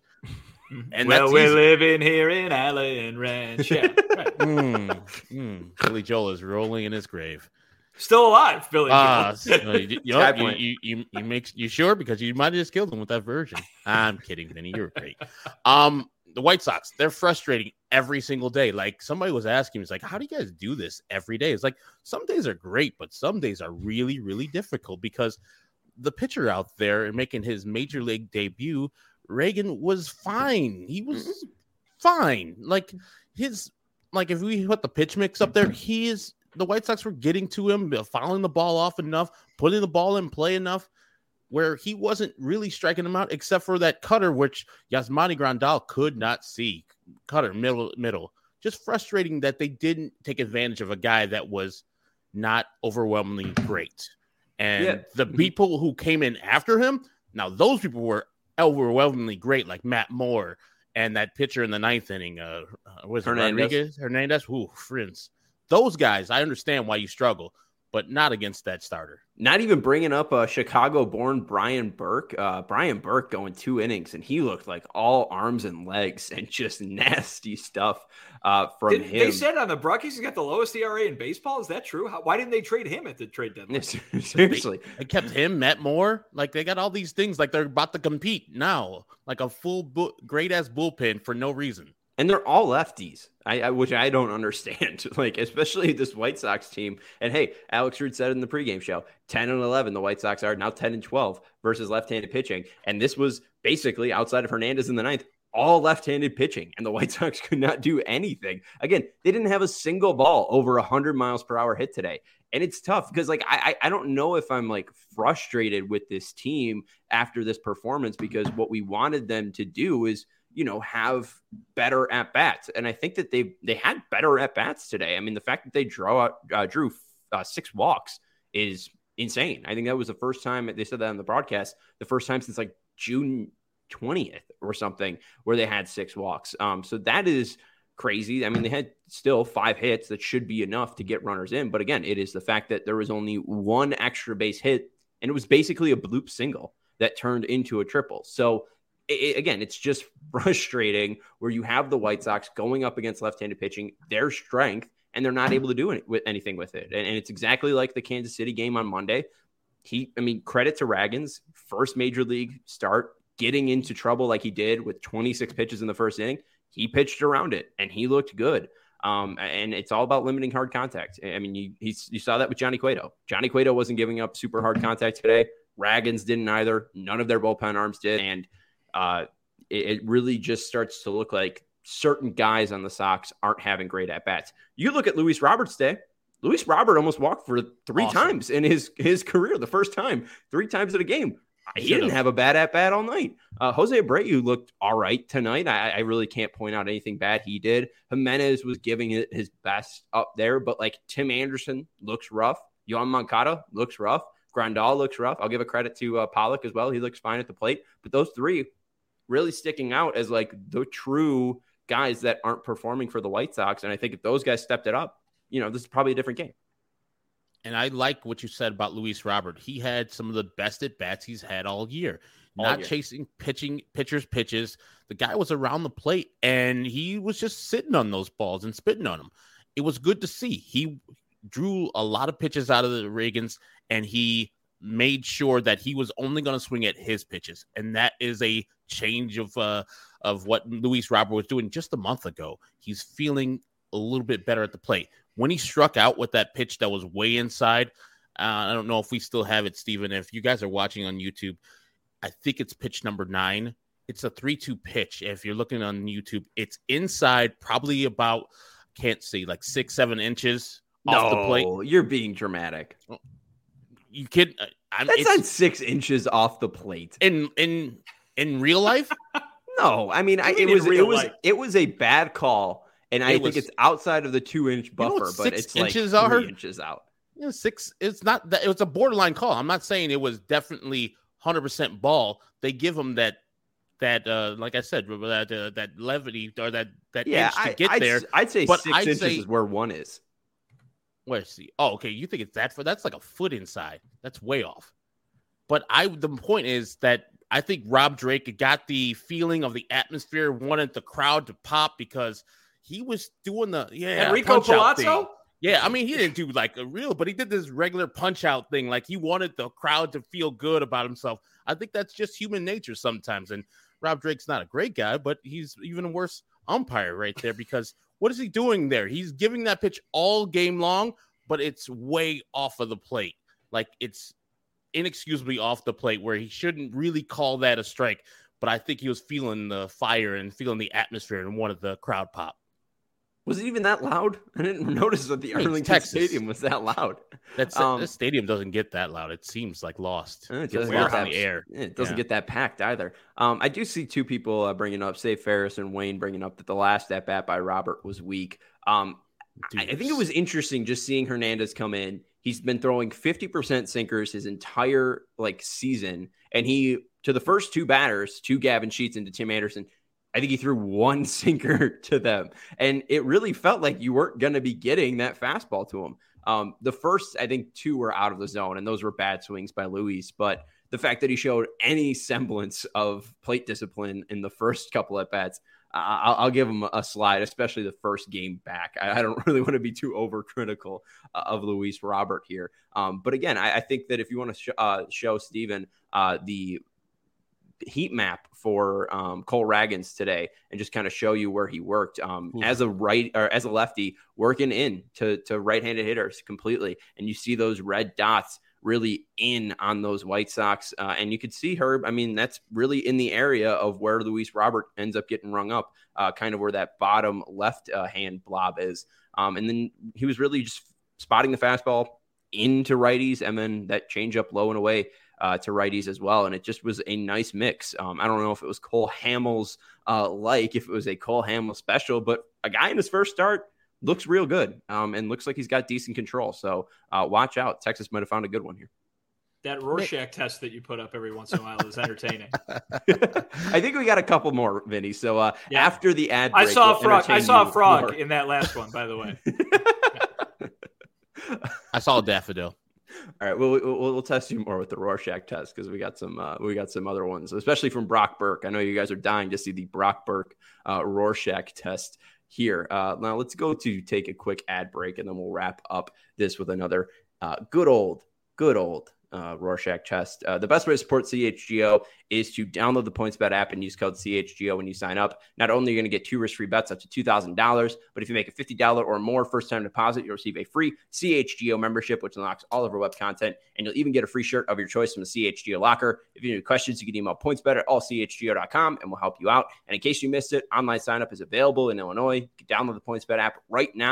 And well, we're easy. living here in Allen Ranch. Yeah, right. mm, mm. Billy Joel is rolling in his grave. Still alive, Billy uh, Joel. So you, you, know, you, you, you, you make you sure because you might have just killed him with that version. I'm kidding, Vinny. You're great. Um. The White Sox, they're frustrating every single day. Like somebody was asking me, it's like, how do you guys do this every day? It's like some days are great, but some days are really, really difficult because the pitcher out there and making his major league debut, Reagan, was fine. He was fine. Like his, like if we put the pitch mix up there, he is, the White Sox were getting to him, fouling the ball off enough, putting the ball in play enough, where he wasn't really striking him out except for that cutter, which Yasmani Grandal could not see. Cutter, middle, middle. Just frustrating that they didn't take advantage of a guy that was not overwhelmingly great. And yeah. the people who came in after him, now those people were overwhelmingly great, like Matt Moore and that pitcher in the ninth inning, uh, was it Hernandez. Rodriguez? Hernandez? Ooh, friends. Those guys, I understand why you struggle, but not against that starter. Not even bringing up a Chicago-born Brian Burke. Uh, Brian Burke going two innings, and he looked like all arms and legs and just nasty stuff uh, from Did, him. They said on the Brockies he's got the lowest E R A in baseball. Is that true? How, why didn't they trade him at the trade deadline? Seriously. They, they kept him, Matt Moore. Like, they got all these things. Like, they're about to compete now. Like a full, bu- great-ass bullpen for no reason. And they're all lefties, I, I which I don't understand. Like, especially this White Sox team. And hey, Alex Root said in the pregame show, ten and eleven, the White Sox are now ten and twelve versus left-handed pitching. And this was basically, outside of Hernandez in the ninth, all left-handed pitching. And the White Sox could not do anything. Again, they didn't have a single ball over one hundred miles per hour hit today. And it's tough because, like, I I don't know if I'm, like, frustrated with this team after this performance, because what we wanted them to do is, you know, have better at bats. And I think that they they had better at bats today. I mean, the fact that they draw out, uh, drew uh, six walks is insane. I think that was the first time, they said that on the broadcast, the first time since like June twentieth or something where they had six walks. Um, so that is crazy. I mean, they had still five hits that should be enough to get runners in. But again, it is the fact that there was only one extra base hit, and it was basically a bloop single that turned into a triple. So It, again, it's just frustrating where you have the White Sox going up against left-handed pitching, their strength, and they're not able to do it with anything with it. And, and it's exactly like the Kansas City game on Monday. He, I mean, credit to Ragans, first major league start, getting into trouble like he did with twenty-six pitches in the first inning. He pitched around it, and he looked good. Um, and it's all about limiting hard contact. I mean, you he's, you saw that with Johnny Cueto. Johnny Cueto wasn't giving up super hard contact today. Ragans didn't either. None of their bullpen arms did. And Uh, it, it really just starts to look like certain guys on the Sox aren't having great at-bats. You look at Luis Roberts' day. Luis Robert almost walked for three awesome. times in his, his career, the first time, three times in a game. he didn't have a bad at bat all night. Uh, Jose Abreu looked all right tonight. I, I really can't point out anything bad he did. Jimenez was giving it his best up there, but like Tim Anderson looks rough. Yoan Moncada looks rough. Grandal looks rough. I'll give a credit to uh, Pollock as well. He looks fine at the plate. But those three really sticking out as like the true guys that aren't performing for the White Sox. And I think if those guys stepped it up, you know, this is probably a different game. And I like what you said about Luis Robert. He had some of the best at bats he's had all year. All Not year. chasing pitching pitchers pitches. The guy was around the plate and he was just sitting on those balls and spitting on them. It was good to see. He drew a lot of pitches out of the Reagans and he made sure that he was only going to swing at his pitches. And that is a change of uh, of what Luis Robert was doing just a month ago. He's feeling a little bit better at the plate. When he struck out with that pitch that was way inside, uh, I don't know if we still have it, Steven. If you guys are watching on YouTube, I think it's pitch number nine. It's a three two pitch. If you're looking on YouTube, it's inside probably about, can't see, like six, seven inches off no, the plate. You're being dramatic. You kid? I'm, That's not six inches off the plate. In in in real life? No, I mean, I, mean it was it was life? it was a bad call. And I it think was, it's outside of the two inch buffer, you know but it's like inches three are? inches out. You know, six. It's not that. It was a borderline call. I'm not saying it was definitely one hundred percent ball. They give them that, that uh, like I said, that uh, that levity or that that yeah, inch to I, get I'd, there. I'd say but six I'd inches say, is where one is. Where's the? Oh, okay. You think it's that for? That's like a foot inside. That's way off. But I, the point is that I think Rob Drake got the feeling of the atmosphere, wanted the crowd to pop because he was doing the yeah Enrico Palazzo. Yeah, I mean he didn't do like a real, but he did this regular punch out thing. Like he wanted the crowd to feel good about himself. I think that's just human nature sometimes. And Rob Drake's not a great guy, but he's even a worse umpire right there because what is he doing there? He's giving that pitch all game long, but it's way off of the plate. Like it's inexcusably off the plate where he shouldn't really call that a strike. But I think he was feeling the fire and feeling the atmosphere and wanted the crowd pop. Was it even that loud? I didn't notice that the I mean, Arlington Texas. Stadium was that loud. That's um, this stadium doesn't get that loud. It seems like lost. It It's doesn't, lost get in that, the air. It doesn't Yeah. get that packed either. Um, I do see two people uh, bringing up, say Ferris and Wayne bringing up that the last at bat by Robert was weak. Um, I, I think it was interesting just seeing Hernandez come in. He's been throwing fifty percent sinkers his entire like season, and he to the first two batters, to Gavin Sheets and to Tim Anderson, I think he threw one sinker to them. And it really felt like you weren't going to be getting that fastball to him. Um, the first, I think, two were out of the zone, and those were bad swings by Luis. But the fact that he showed any semblance of plate discipline in the first couple at bats, uh, I'll, I'll give him a slide, especially the first game back. I, I don't really want to be too overcritical uh, of Luis Robert here. Um, but again, I, I think that if you want to sh- uh, show Steven uh, the heat map for um, Cole Ragans today and just kind of show you where he worked um, as a right or as a lefty working in to, to right-handed hitters completely. And you see those red dots really in on those White Sox. Uh, and you could see Herb. I mean, that's really in the area of where Luis Robert ends up getting rung up, uh, kind of where that bottom left uh, hand blob is. Um, and then he was really just spotting the fastball into righties and then that changeup low and away Uh, to righties as well. And it just was a nice mix. Um, I don't know if it was Cole Hamels uh, like, if it was a Cole Hamels special, but a guy in his first start looks real good um, and looks like he's got decent control. So uh, watch out. Texas might have found a good one here. That Rorschach test that you put up every once in a while is entertaining. I think we got a couple more, Vinny. So uh, yeah. after the ad break, I saw we'll a frog. I saw a frog more. in that last one, by the way. I saw a daffodil. All right, we'll, we'll we'll test you more with the Rorschach test because we got some uh, we got some other ones, especially from Brock Burke. I know you guys are dying to see the Brock Burke uh, Rorschach test here. Uh, now let's go to take a quick ad break and then we'll wrap up this with another uh, good old, good old uh, Rorschach test. Uh, the best way to support C H G O is to download the PointsBet app and use code C H G O when you sign up. Not only are you going to get two risk-free bets up to two thousand dollars, but if you make a fifty dollars or more first-time deposit, you'll receive a free C H G O membership, which unlocks all of our web content, and you'll even get a free shirt of your choice from the C H G O locker. If you have any questions, you can email pointsbet at all c h g o dot com, and we'll help you out. And in case you missed it, online sign-up is available in Illinois. You can download the PointsBet app right now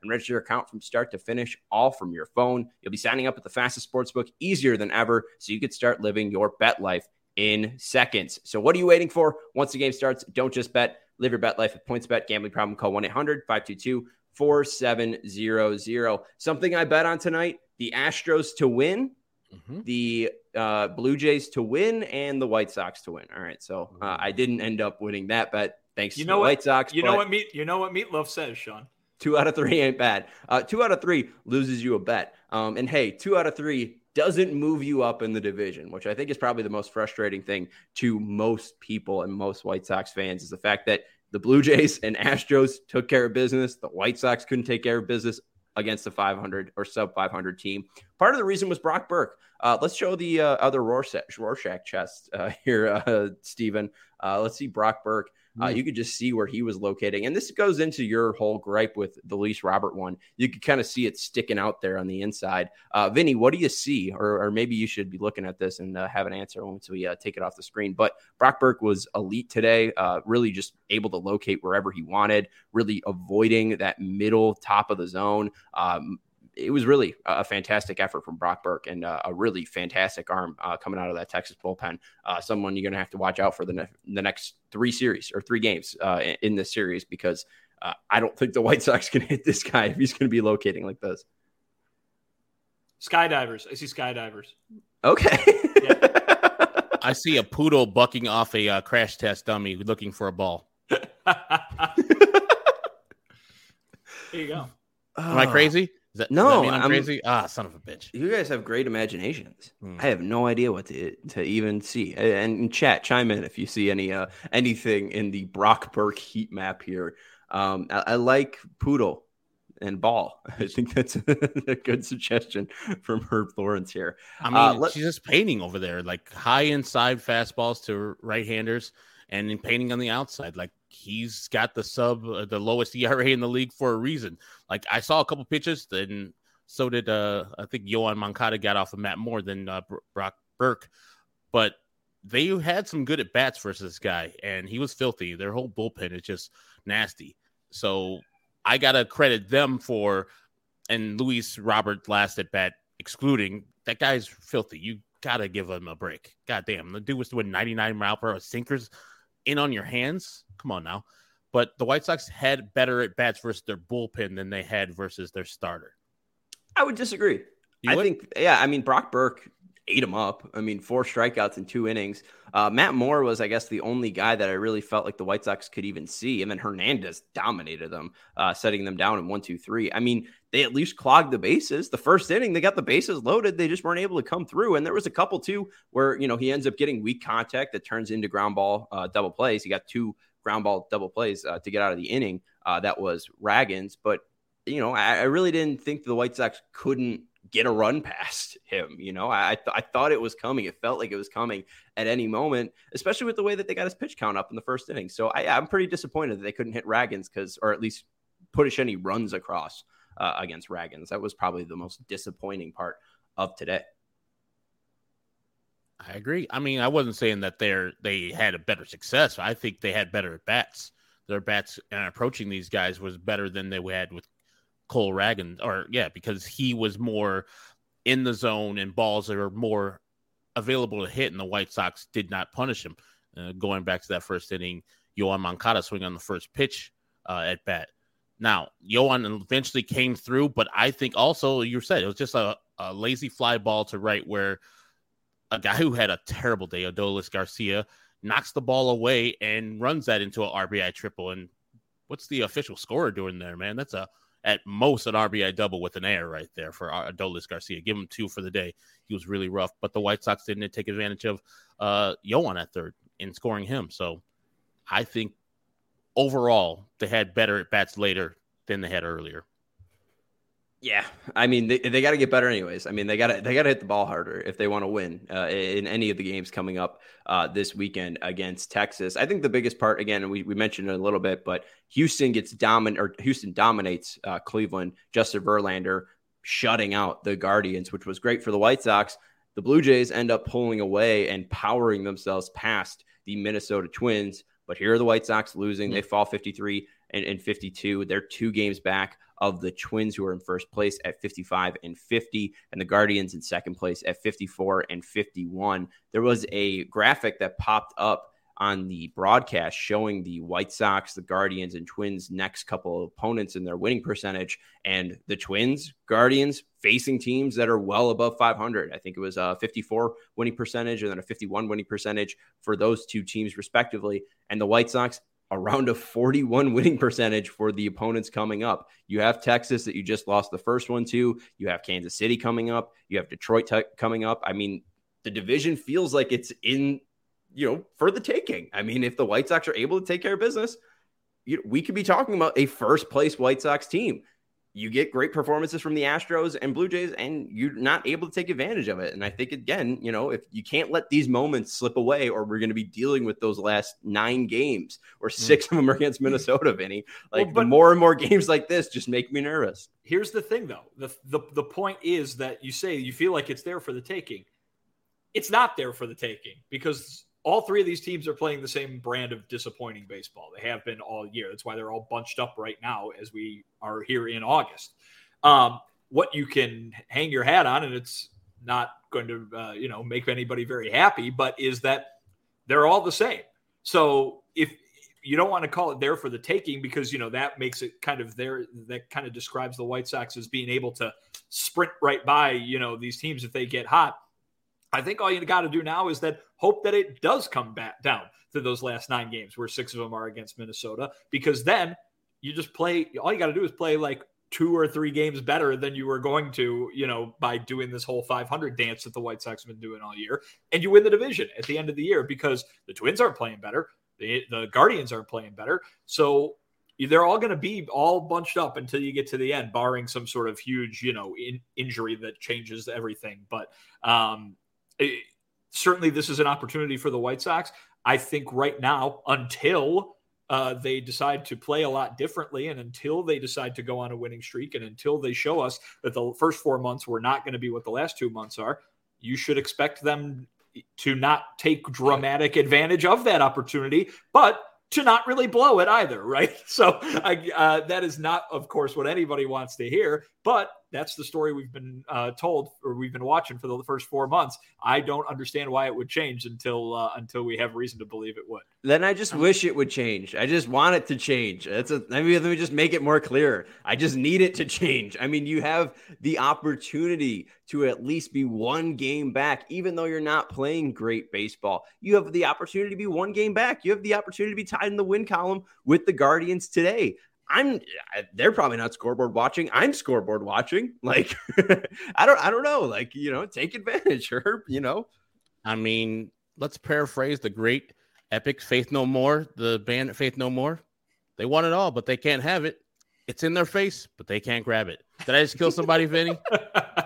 and register your account from start to finish, all from your phone. You'll be signing up at the fastest sportsbook easier than ever, so you could start living your bet life in seconds. So what are you waiting for? Once the game starts, don't just bet. Live your bet life with PointsBet. Gambling problem, call one eight hundred five two two four seven zero zero. Something I bet on tonight, the Astros to win, mm-hmm. the uh, Blue Jays to win, and the White Sox to win. All right, so uh, I didn't end up winning that bet thanks you to know the what, White Sox. You know what meat you know what Meatloaf says, Sean. Two out of three ain't bad. Uh, two out of three loses you a bet. Um, and hey, two out of three doesn't move you up in the division, which I think is probably the most frustrating thing to most people and most White Sox fans is the fact that the Blue Jays and Astros took care of business. The White Sox couldn't take care of business against the five hundred or sub five hundred team. Part of the reason was Brock Burke. Uh, let's show the uh, other Rorschach, Rorschach chest uh, here, uh, Steven. Uh, let's see Brock Burke. Uh, you could just see where he was locating. And this goes into your whole gripe with the Luis Robert one. You could kind of see it sticking out there on the inside. Uh, Vinny, what do you see? Or, or maybe you should be looking at this and uh, have an answer once we uh, take it off the screen. But Brock Burke was elite today, uh, really just able to locate wherever he wanted, really avoiding that middle top of the zone. Um, It was really a fantastic effort from Brock Burke and uh, a really fantastic arm uh, coming out of that Texas bullpen. Uh, someone you're going to have to watch out for the, ne- the next three series or three games uh, in, in this series because uh, I don't think the White Sox can hit this guy if he's going to be locating like this. Skydivers. I see skydivers. Okay. Yeah. I see a poodle bucking off a uh, crash test dummy looking for a ball. There you go. Am I crazy? Is that, no, does that mean I'm, I'm crazy. Ah, son of a bitch. You guys have great imaginations. Hmm. I have no idea what to to even see. And in chat, chime in if you see any uh, anything in the Brock Burke heat map here. Um, I, I like poodle and ball. I think that's a good suggestion from Herb Lawrence here. I mean, uh, let, she's just painting over there, like high inside fastballs to right-handers, and then painting on the outside. Like he's got the sub, uh, the lowest E R A in the league for a reason. Like I saw a couple pitches, then so did uh, I think Yoan Moncada got off of Matt more than uh, Brock Burke, but they had some good at bats versus this guy, and he was filthy. Their whole bullpen is just nasty. So I gotta credit them for, and Luis Robert last at bat excluding, that guy's filthy. You gotta give him a break. God damn, the dude was doing ninety-nine mile per hour sinkers in on your hands. Come on now. But the White Sox had better at bats versus their bullpen than they had versus their starter. I would disagree. You I would? think, yeah, I mean, Brock Burke ate him up. I mean, four strikeouts in two innings. Uh, Matt Moore was, I guess, the only guy that I really felt like the White Sox could even see. And then Hernandez dominated them, uh, setting them down in one, two, three. I mean, they at least clogged the bases. The first inning, they got the bases loaded. They just weren't able to come through. And there was a couple, too, where, you know, he ends up getting weak contact that turns into ground ball uh, double plays. He got two ground ball double plays uh, to get out of the inning. Uh, that was Raggins. But, you know, I, I really didn't think the White Sox couldn't get a run past him. You know, I th- I thought it was coming. It felt like it was coming at any moment, especially with the way that they got his pitch count up in the first inning. So I, I'm pretty disappointed that they couldn't hit Raggins because, or at least push any runs across uh, against Raggins. That was probably the most disappointing part of today. I agree. I mean, I wasn't saying that they're they had a better success. I think they had better at bats. Their bats and approaching these guys was better than they had with Cole Raggins, or yeah, because he was more in the zone and balls that are more available to hit, and the White Sox did not punish him. Uh, going back to that first inning, Yoan Moncada swing on the first pitch uh, at bat. Now, Yoan eventually came through, but I think also you said it was just a, a lazy fly ball to right where a guy who had a terrible day, Adolis Garcia, knocks the ball away and runs that into an R B I triple. And what's the official scorer doing there, man? That's a at most an R B I double with an error right there for Adolis Garcia. Give him two for the day. He was really rough, but the White Sox didn't take advantage of uh, Yoan at third in scoring him. So I think overall they had better at bats later than they had earlier. Yeah, I mean they, they got to get better anyways. I mean they got to they got to hit the ball harder if they want to win uh, in any of the games coming up uh, this weekend against Texas. I think the biggest part, again, we, we mentioned it a little bit, but Houston gets domin or Houston dominates uh, Cleveland. Justin Verlander shutting out the Guardians, which was great for the White Sox. The Blue Jays end up pulling away and powering themselves past the Minnesota Twins. But here are the White Sox losing. Mm-hmm. They fall fifty-three and, and fifty-two. They're two games back of the Twins, who are in first place at fifty-five and fifty, and the Guardians in second place at fifty-four and fifty-one. There was a graphic that popped up on the broadcast showing the White Sox, the Guardians, and Twins' next couple of opponents in their winning percentage, and the Twins, Guardians facing teams that are well above five hundred. I think it was a fifty-four winning percentage and then a fifty-one winning percentage for those two teams respectively, and the White Sox around a forty-one winning percentage for the opponents coming up. You have Texas that you just lost the first one to. You have Kansas City coming up. You have Detroit t- coming up. I mean, the division feels like it's in, you know, for the taking. I mean, if the White Sox are able to take care of business, you know, we could be talking about a first place White Sox team. You get great performances from the Astros and Blue Jays, and you're not able to take advantage of it. And I think, again, you know, if you can't let these moments slip away, or we're going to be dealing with those last nine games, or six mm. of them are against Minnesota, Vinny. Like, well, but, the more and more games like this just make me nervous. Here's the thing, though. The, the, the point is that you say you feel like it's there for the taking. It's not there for the taking, because all three of these teams are playing the same brand of disappointing baseball. They have been all year. That's why they're all bunched up right now as we are here in August. Um, what you can hang your hat on, and it's not going to, uh, you know, make anybody very happy, but is that they're all the same. So if you don't want to call it there for the taking, because, you know, that makes it kind of there, that kind of describes the White Sox as being able to sprint right by, you know, these teams if they get hot. I think all you got to do now is that hope that it does come back down to those last nine games where six of them are against Minnesota, because then you just play, all you got to do is play like two or three games better than you were going to, you know, by doing this whole five hundred dance that the White Sox have been doing all year, and you win the division at the end of the year, because the Twins aren't playing better. The, the Guardians aren't playing better. So they're all going to be all bunched up until you get to the end, barring some sort of huge, you know, in, injury that changes everything. But, um, It, certainly this is an opportunity for the White Sox. I think right now, until uh, they decide to play a lot differently, and until they decide to go on a winning streak, and until they show us that the first four months were not going to be what the last two months are, you should expect them to not take dramatic advantage of that opportunity, but to not really blow it either, right? So I, uh, that is not, of course, what anybody wants to hear, but that's the story we've been uh, told, or we've been watching for the first four months. I don't understand why it would change until uh, until we have reason to believe it would. Then I just wish it would change. I just want it to change. That's a, I mean, let me just make it more clear. I just need it to change. I mean, you have the opportunity to at least be one game back, even though you're not playing great baseball. You have the opportunity to be one game back. You have the opportunity to be tied in the win column with the Guardians today. I'm they're probably not scoreboard watching. I'm scoreboard watching. Like, I don't I don't know. Like, you know, take advantage, Herb, you know. I mean, let's paraphrase the great epic Faith No More, the band Faith No More. They want it all, but they can't have it. It's in their face, but they can't grab it. Did I just kill somebody, Vinny? No,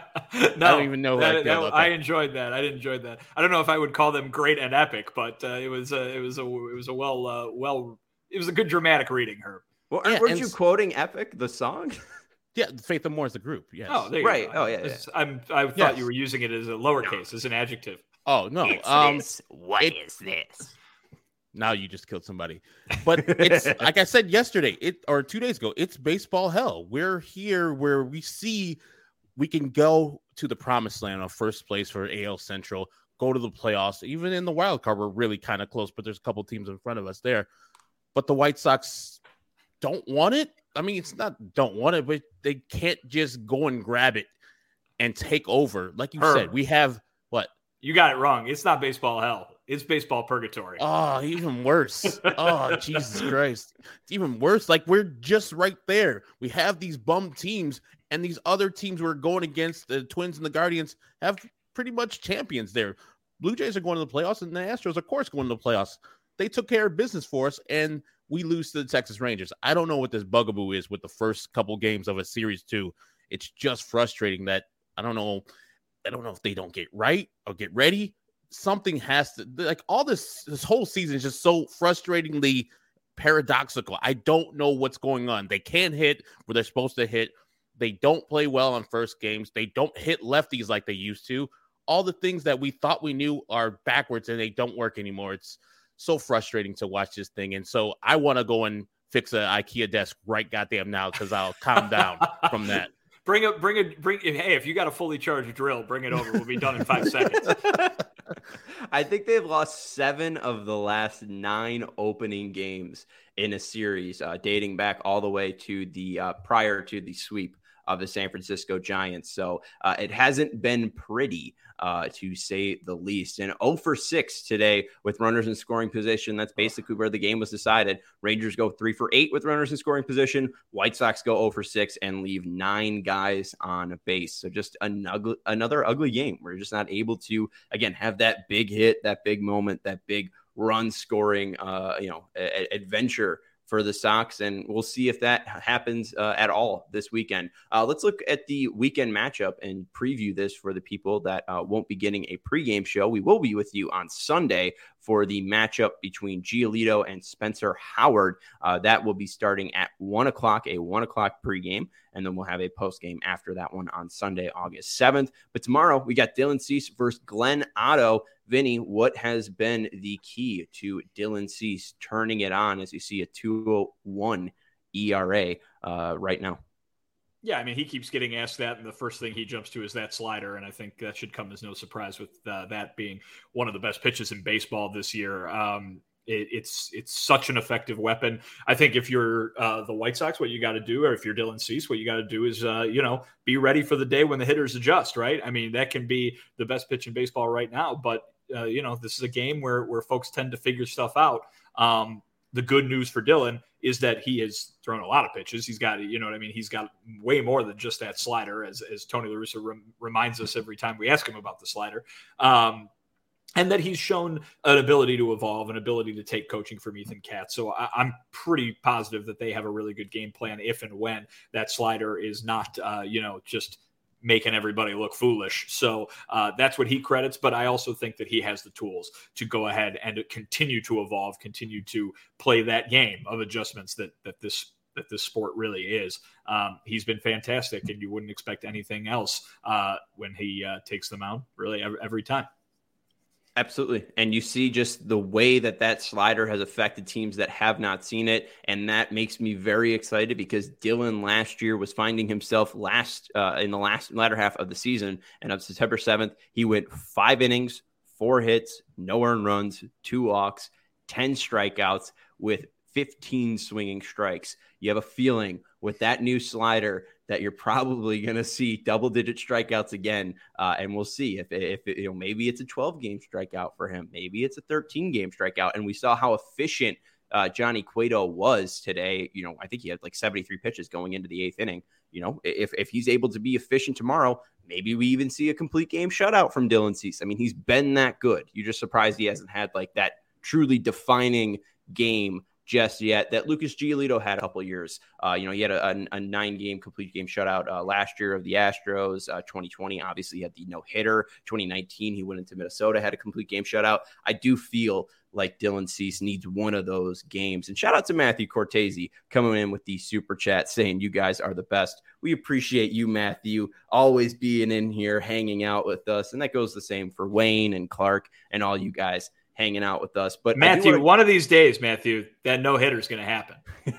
I don't even know. That, I, that, I enjoyed that. I enjoyed that. I don't know if I would call them great and epic, but uh, it was a, it was a, it was a well, uh, well, it was a good dramatic reading, Herb. Well, yeah, weren't you quoting Epic, the song? Yeah, Faith No More is the group. Yes. Oh, there you right. go. Oh, yeah. yeah. I'm. I thought yes. you were using it as a lowercase, no. as an adjective. Oh no. It's um, this. What it, is this? Now you just killed somebody. But it's like I said yesterday, it or two days ago. It's baseball hell. We're here where we see we can go to the promised land of first place for A L Central, go to the playoffs. Even in the wild card, we're really kind of close, but there's a couple teams in front of us there. But the White Sox don't want it. I mean, it's not don't want it, but they can't just go and grab it and take over. Like you Herb, said, we have what? You got it wrong. It's not baseball hell. It's baseball purgatory. Oh, even worse. Oh, Jesus Christ. It's even worse. Like, we're just right there. We have these bum teams, and these other teams we're going against, the Twins and the Guardians, have pretty much champions there. Blue Jays are going to the playoffs, and the Astros, of course, going to the playoffs. They took care of business for us, and we lose to the Texas Rangers. I don't know what this bugaboo is with the first couple games of a series two. It's just frustrating that I don't know. I don't know if they don't get right or get ready. Something has to, like, all this, this whole season is just so frustratingly paradoxical. I don't know what's going on. They can't hit where they're supposed to hit. They don't play well on first games. They don't hit lefties like they used to. All the things that we thought we knew are backwards, and they don't work anymore. It's so frustrating to watch this thing. And so I want to go and fix an IKEA desk right goddamn now because I'll calm down from that. Bring it, bring it, bring it. Hey, if you got a fully charged drill, bring it over. We'll be done in five seconds. I think they've lost seven of the last nine opening games in a series, uh, dating back all the way to the uh, prior to the sweep of the San Francisco Giants. So uh, it hasn't been pretty, uh, to say the least. And oh for six today with runners in scoring position. That's basically where the game was decided. Rangers go three for eight with runners in scoring position. White Sox go oh for six and leave nine guys on base. So just an ugly, another ugly game. We're just not able to, again, have that big hit, that big moment, that big run scoring, uh, you know, a- adventure for the Sox, and we'll see if that happens uh, at all this weekend. Uh, let's look at the weekend matchup and preview this for the people that uh, won't be getting a pregame show. We will be with you on Sunday for the matchup between Giolito and Spencer Howard. Uh, that will be starting at one o'clock, a one o'clock pregame, and then we'll have a postgame after that one on Sunday, August seventh. But tomorrow, we got Dylan Cease versus Glenn Otto. Vinny, what has been the key to Dylan Cease turning it on as you see a two oh one E R A uh, right now? Yeah, I mean, he keeps getting asked that, and the first thing he jumps to is that slider, and I think that should come as no surprise with uh, that being one of the best pitches in baseball this year. Um, it, it's it's such an effective weapon. I think if you're uh, the White Sox, what you got to do, or if you're Dylan Cease, what you got to do is, uh, you know, be ready for the day when the hitters adjust, right? I mean, that can be the best pitch in baseball right now, but Uh, you know, this is a game where where folks tend to figure stuff out. Um, the good news for Dylan is that he has thrown a lot of pitches. He's got, you know what I mean? He's got way more than just that slider, as, as Tony La Russa rem- reminds us every time we ask him about the slider. Um, and that he's shown an ability to evolve, an ability to take coaching from Ethan Katz. So I, I'm pretty positive that they have a really good game plan if and when that slider is not, uh, you know, just making everybody look foolish. So uh, that's what he credits. But I also think that he has the tools to go ahead and continue to evolve, continue to play that game of adjustments that that this that this sport really is. Um, he's been fantastic, and you wouldn't expect anything else uh, when he uh, takes them out really every, every time. Absolutely. And you see just the way that that slider has affected teams that have not seen it. And that makes me very excited because Dylan last year was finding himself last uh, in the last latter half of the season. And on September seventh, he went five innings, four hits, no earned runs, two walks, ten strikeouts with fifteen swinging strikes. You have a feeling with that new slider that you're probably going to see double digit strikeouts again. Uh, and we'll see if, if you know, maybe it's a twelve game strikeout for him. Maybe it's a thirteen game strikeout. And we saw how efficient uh, Johnny Cueto was today. You know, I think he had like seventy-three pitches going into the eighth inning. You know, if, if he's able to be efficient tomorrow, maybe we even see a complete game shutout from Dylan Cease. I mean, he's been that good. You're just surprised he hasn't had like that truly defining game just yet that Lucas Giolito had a couple of years. Uh, you know, he had a, a, a nine-game complete game shutout uh, last year of the Astros. Uh, twenty twenty, obviously, he had the no-hitter. twenty nineteen, he went into Minnesota, had a complete game shutout. I do feel like Dylan Cease needs one of those games. And shout out to Matthew Cortese coming in with the super chat saying you guys are the best. We appreciate you, Matthew, always being in here, hanging out with us. And that goes the same for Wayne and Clark and all you guys hanging out with us. But Matthew, wanna... one of these days, Matthew, that no-hitter is going to happen.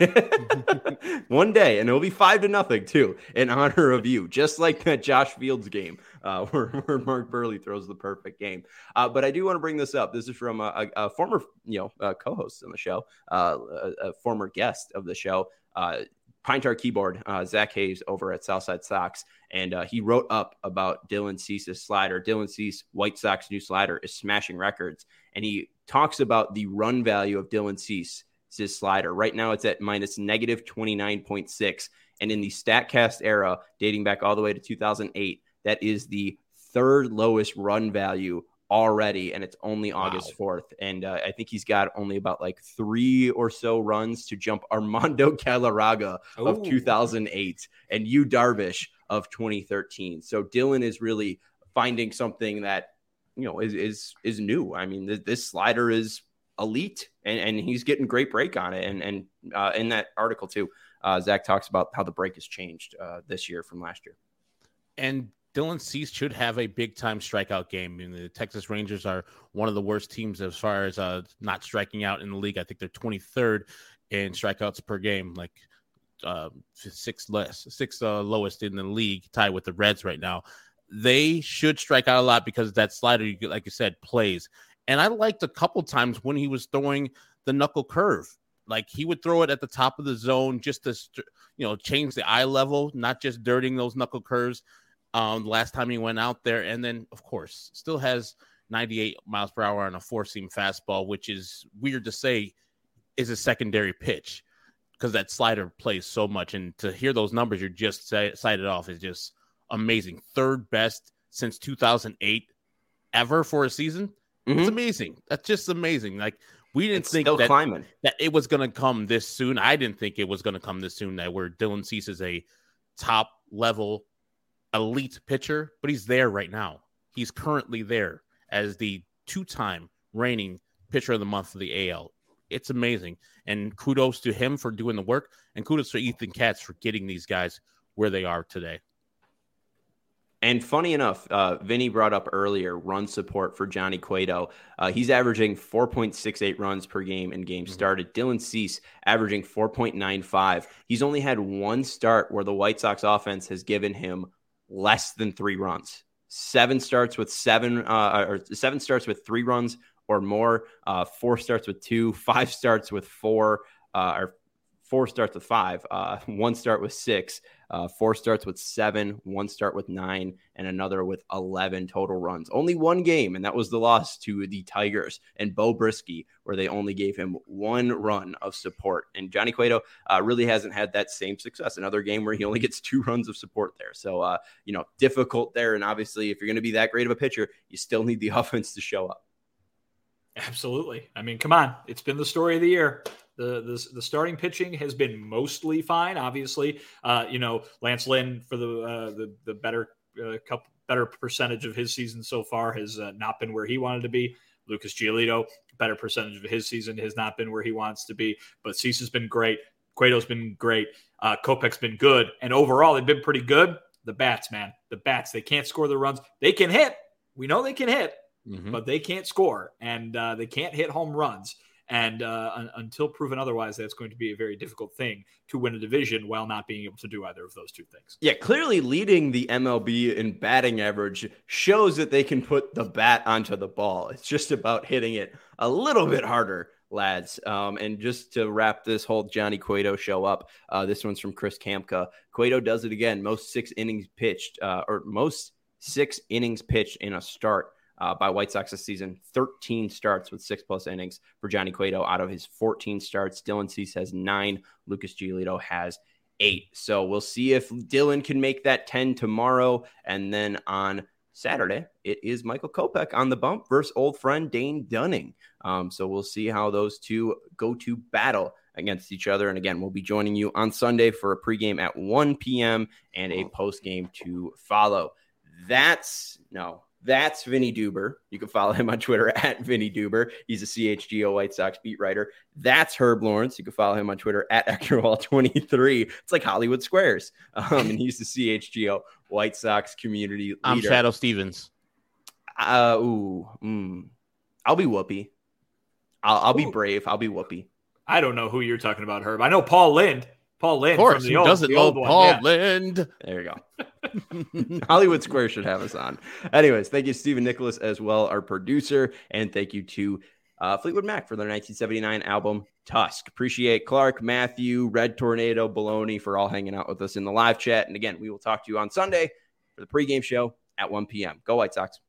One day, and it'll be five to nothing, too, in honor of you, just like that Josh Fields game uh, where, where Mark Burley throws the perfect game. Uh, but I do want to bring this up. This is from a, a, a former you know, uh, co-host on the show, uh, a, a former guest of the show, uh, Pine Tar Keyboard, uh, Zach Hayes over at Southside Sox, and uh, he wrote up about Dylan Cease's slider. Dylan Cease, White Sox new slider, is smashing records, and he talks about the run value of Dylan Cease's slider. Right now, it's at minus negative twenty-nine point six, and in the StatCast era, dating back all the way to two thousand eight, that is the third lowest run value already, and it's only wow. August fourth. And uh, I think he's got only about like three or so runs to jump Armando Galarraga Ooh. of two thousand eight and Yu Darvish of twenty thirteen. So Dylan is really finding something that, you know, is is is new. I mean, th- this slider is elite, and, and he's getting great break on it. And and uh, in that article too, uh, Zach talks about how the break has changed uh, this year from last year. And Dylan Cease should have a big-time strikeout game. I mean, the Texas Rangers are one of the worst teams as far as uh, not striking out in the league. I think they're twenty-third. in strikeouts per game, like uh, six less, six uh, lowest in the league, tied with the Reds right now. They should strike out a lot because that slider, like you said, plays. And I liked a couple times when he was throwing the knuckle curve. Like he would throw it at the top of the zone just to, you know, change the eye level, not just dirting those knuckle curves. Um, last time he went out there, and then of course still has ninety-eight miles per hour on a four-seam fastball, which is weird to say is a secondary pitch because that slider plays so much. And to hear those numbers you just cited off is just amazing. Third best since two thousand eight ever for a season. Mm-hmm. It's amazing. That's just amazing. Like we didn't it's think still that, climbing. that it was going to come this soon. I didn't think it was going to come this soon. That where Dylan Cease is a top level elite pitcher, but he's there right now. He's currently there as the two-time reigning pitcher of the month for the A L. It's amazing. And kudos to him for doing the work, and kudos to Ethan Katz for getting these guys where they are today. And funny enough, uh, Vinny brought up earlier run support for Johnny Cueto. Uh, he's averaging four point six eight runs per game in games mm-hmm. started. Dylan Cease averaging four point nine five. He's only had one start where the White Sox offense has given him less than three runs. Seven starts with seven, uh, or seven starts with three runs or more. Uh, four starts with two. Five starts with four, uh, or four starts with five. Uh, one start with six. Uh, four starts with seven, one start with nine, and another with eleven total runs. Only one game, and that was the loss to the Tigers and Bo Brisky, where they only gave him one run of support. And Johnny Cueto uh, really hasn't had that same success. Another game where he only gets two runs of support there. So, uh, you know, difficult there. And obviously, if you're going to be that great of a pitcher, you still need the offense to show up. Absolutely. I mean, come on. It's been the story of the year. The, the the starting pitching has been mostly fine. Obviously, uh, you know, Lance Lynn for the uh, the the better uh, couple better percentage of his season so far has uh, not been where he wanted to be. Lucas Giolito, better percentage of his season has not been where he wants to be. But Cease has been great. Cueto's been great. Uh, Kopech's been good, and overall they've been pretty good. The bats, man, the bats. They can't score the runs. They can hit. We know they can hit, mm-hmm. but they can't score, and uh, they can't hit home runs. And uh, un- until proven otherwise, that's going to be a very difficult thing to win a division while not being able to do either of those two things. Yeah, clearly leading the M L B in batting average shows that they can put the bat onto the ball. It's just about hitting it a little bit harder, lads. Um, and just to wrap this whole Johnny Cueto show up, uh, this one's from Chris Kamka. Cueto does it again. Most six innings pitched, uh, or most six innings pitched in a start. Uh, by White Sox this season, thirteen starts with six plus innings for Johnny Cueto out of his fourteen starts. Dylan Cease has nine. Lucas Giolito has eight. So we'll see if Dylan can make that ten tomorrow. And then on Saturday, it is Michael Kopech on the bump versus old friend Dane Dunning. Um, so we'll see how those two go to battle against each other. And again, we'll be joining you on Sunday for a pregame at one p.m. and a postgame to follow. That's no. That's Vinny Duber. You can follow him on Twitter at Vinny Duber. He's a C H G O White Sox beat writer. That's Herb Lawrence. You can follow him on Twitter at Ecknerwall twenty-three. It's like Hollywood Squares. Um, and he's the C H G O White Sox community leader. I'm Shadow Stevens. Uh, ooh, mm, I'll be Whoopi. I'll, I'll be brave. I'll be Whoopi. I don't know who you're talking about, Herb. I know Paul Lind. Paul Lind. Of course, from the who old, doesn't the know old Paul one. Yeah. Lind? There you go. Hollywood Square should have us on. Anyways, thank you, Stephen Nicholas, as well, our producer. And thank you to uh, Fleetwood Mac for their nineteen seventy-nine album, Tusk. Appreciate Clark, Matthew, Red Tornado, Baloney for all hanging out with us in the live chat. And again, we will talk to you on Sunday for the pregame show at one p.m. Go White Sox.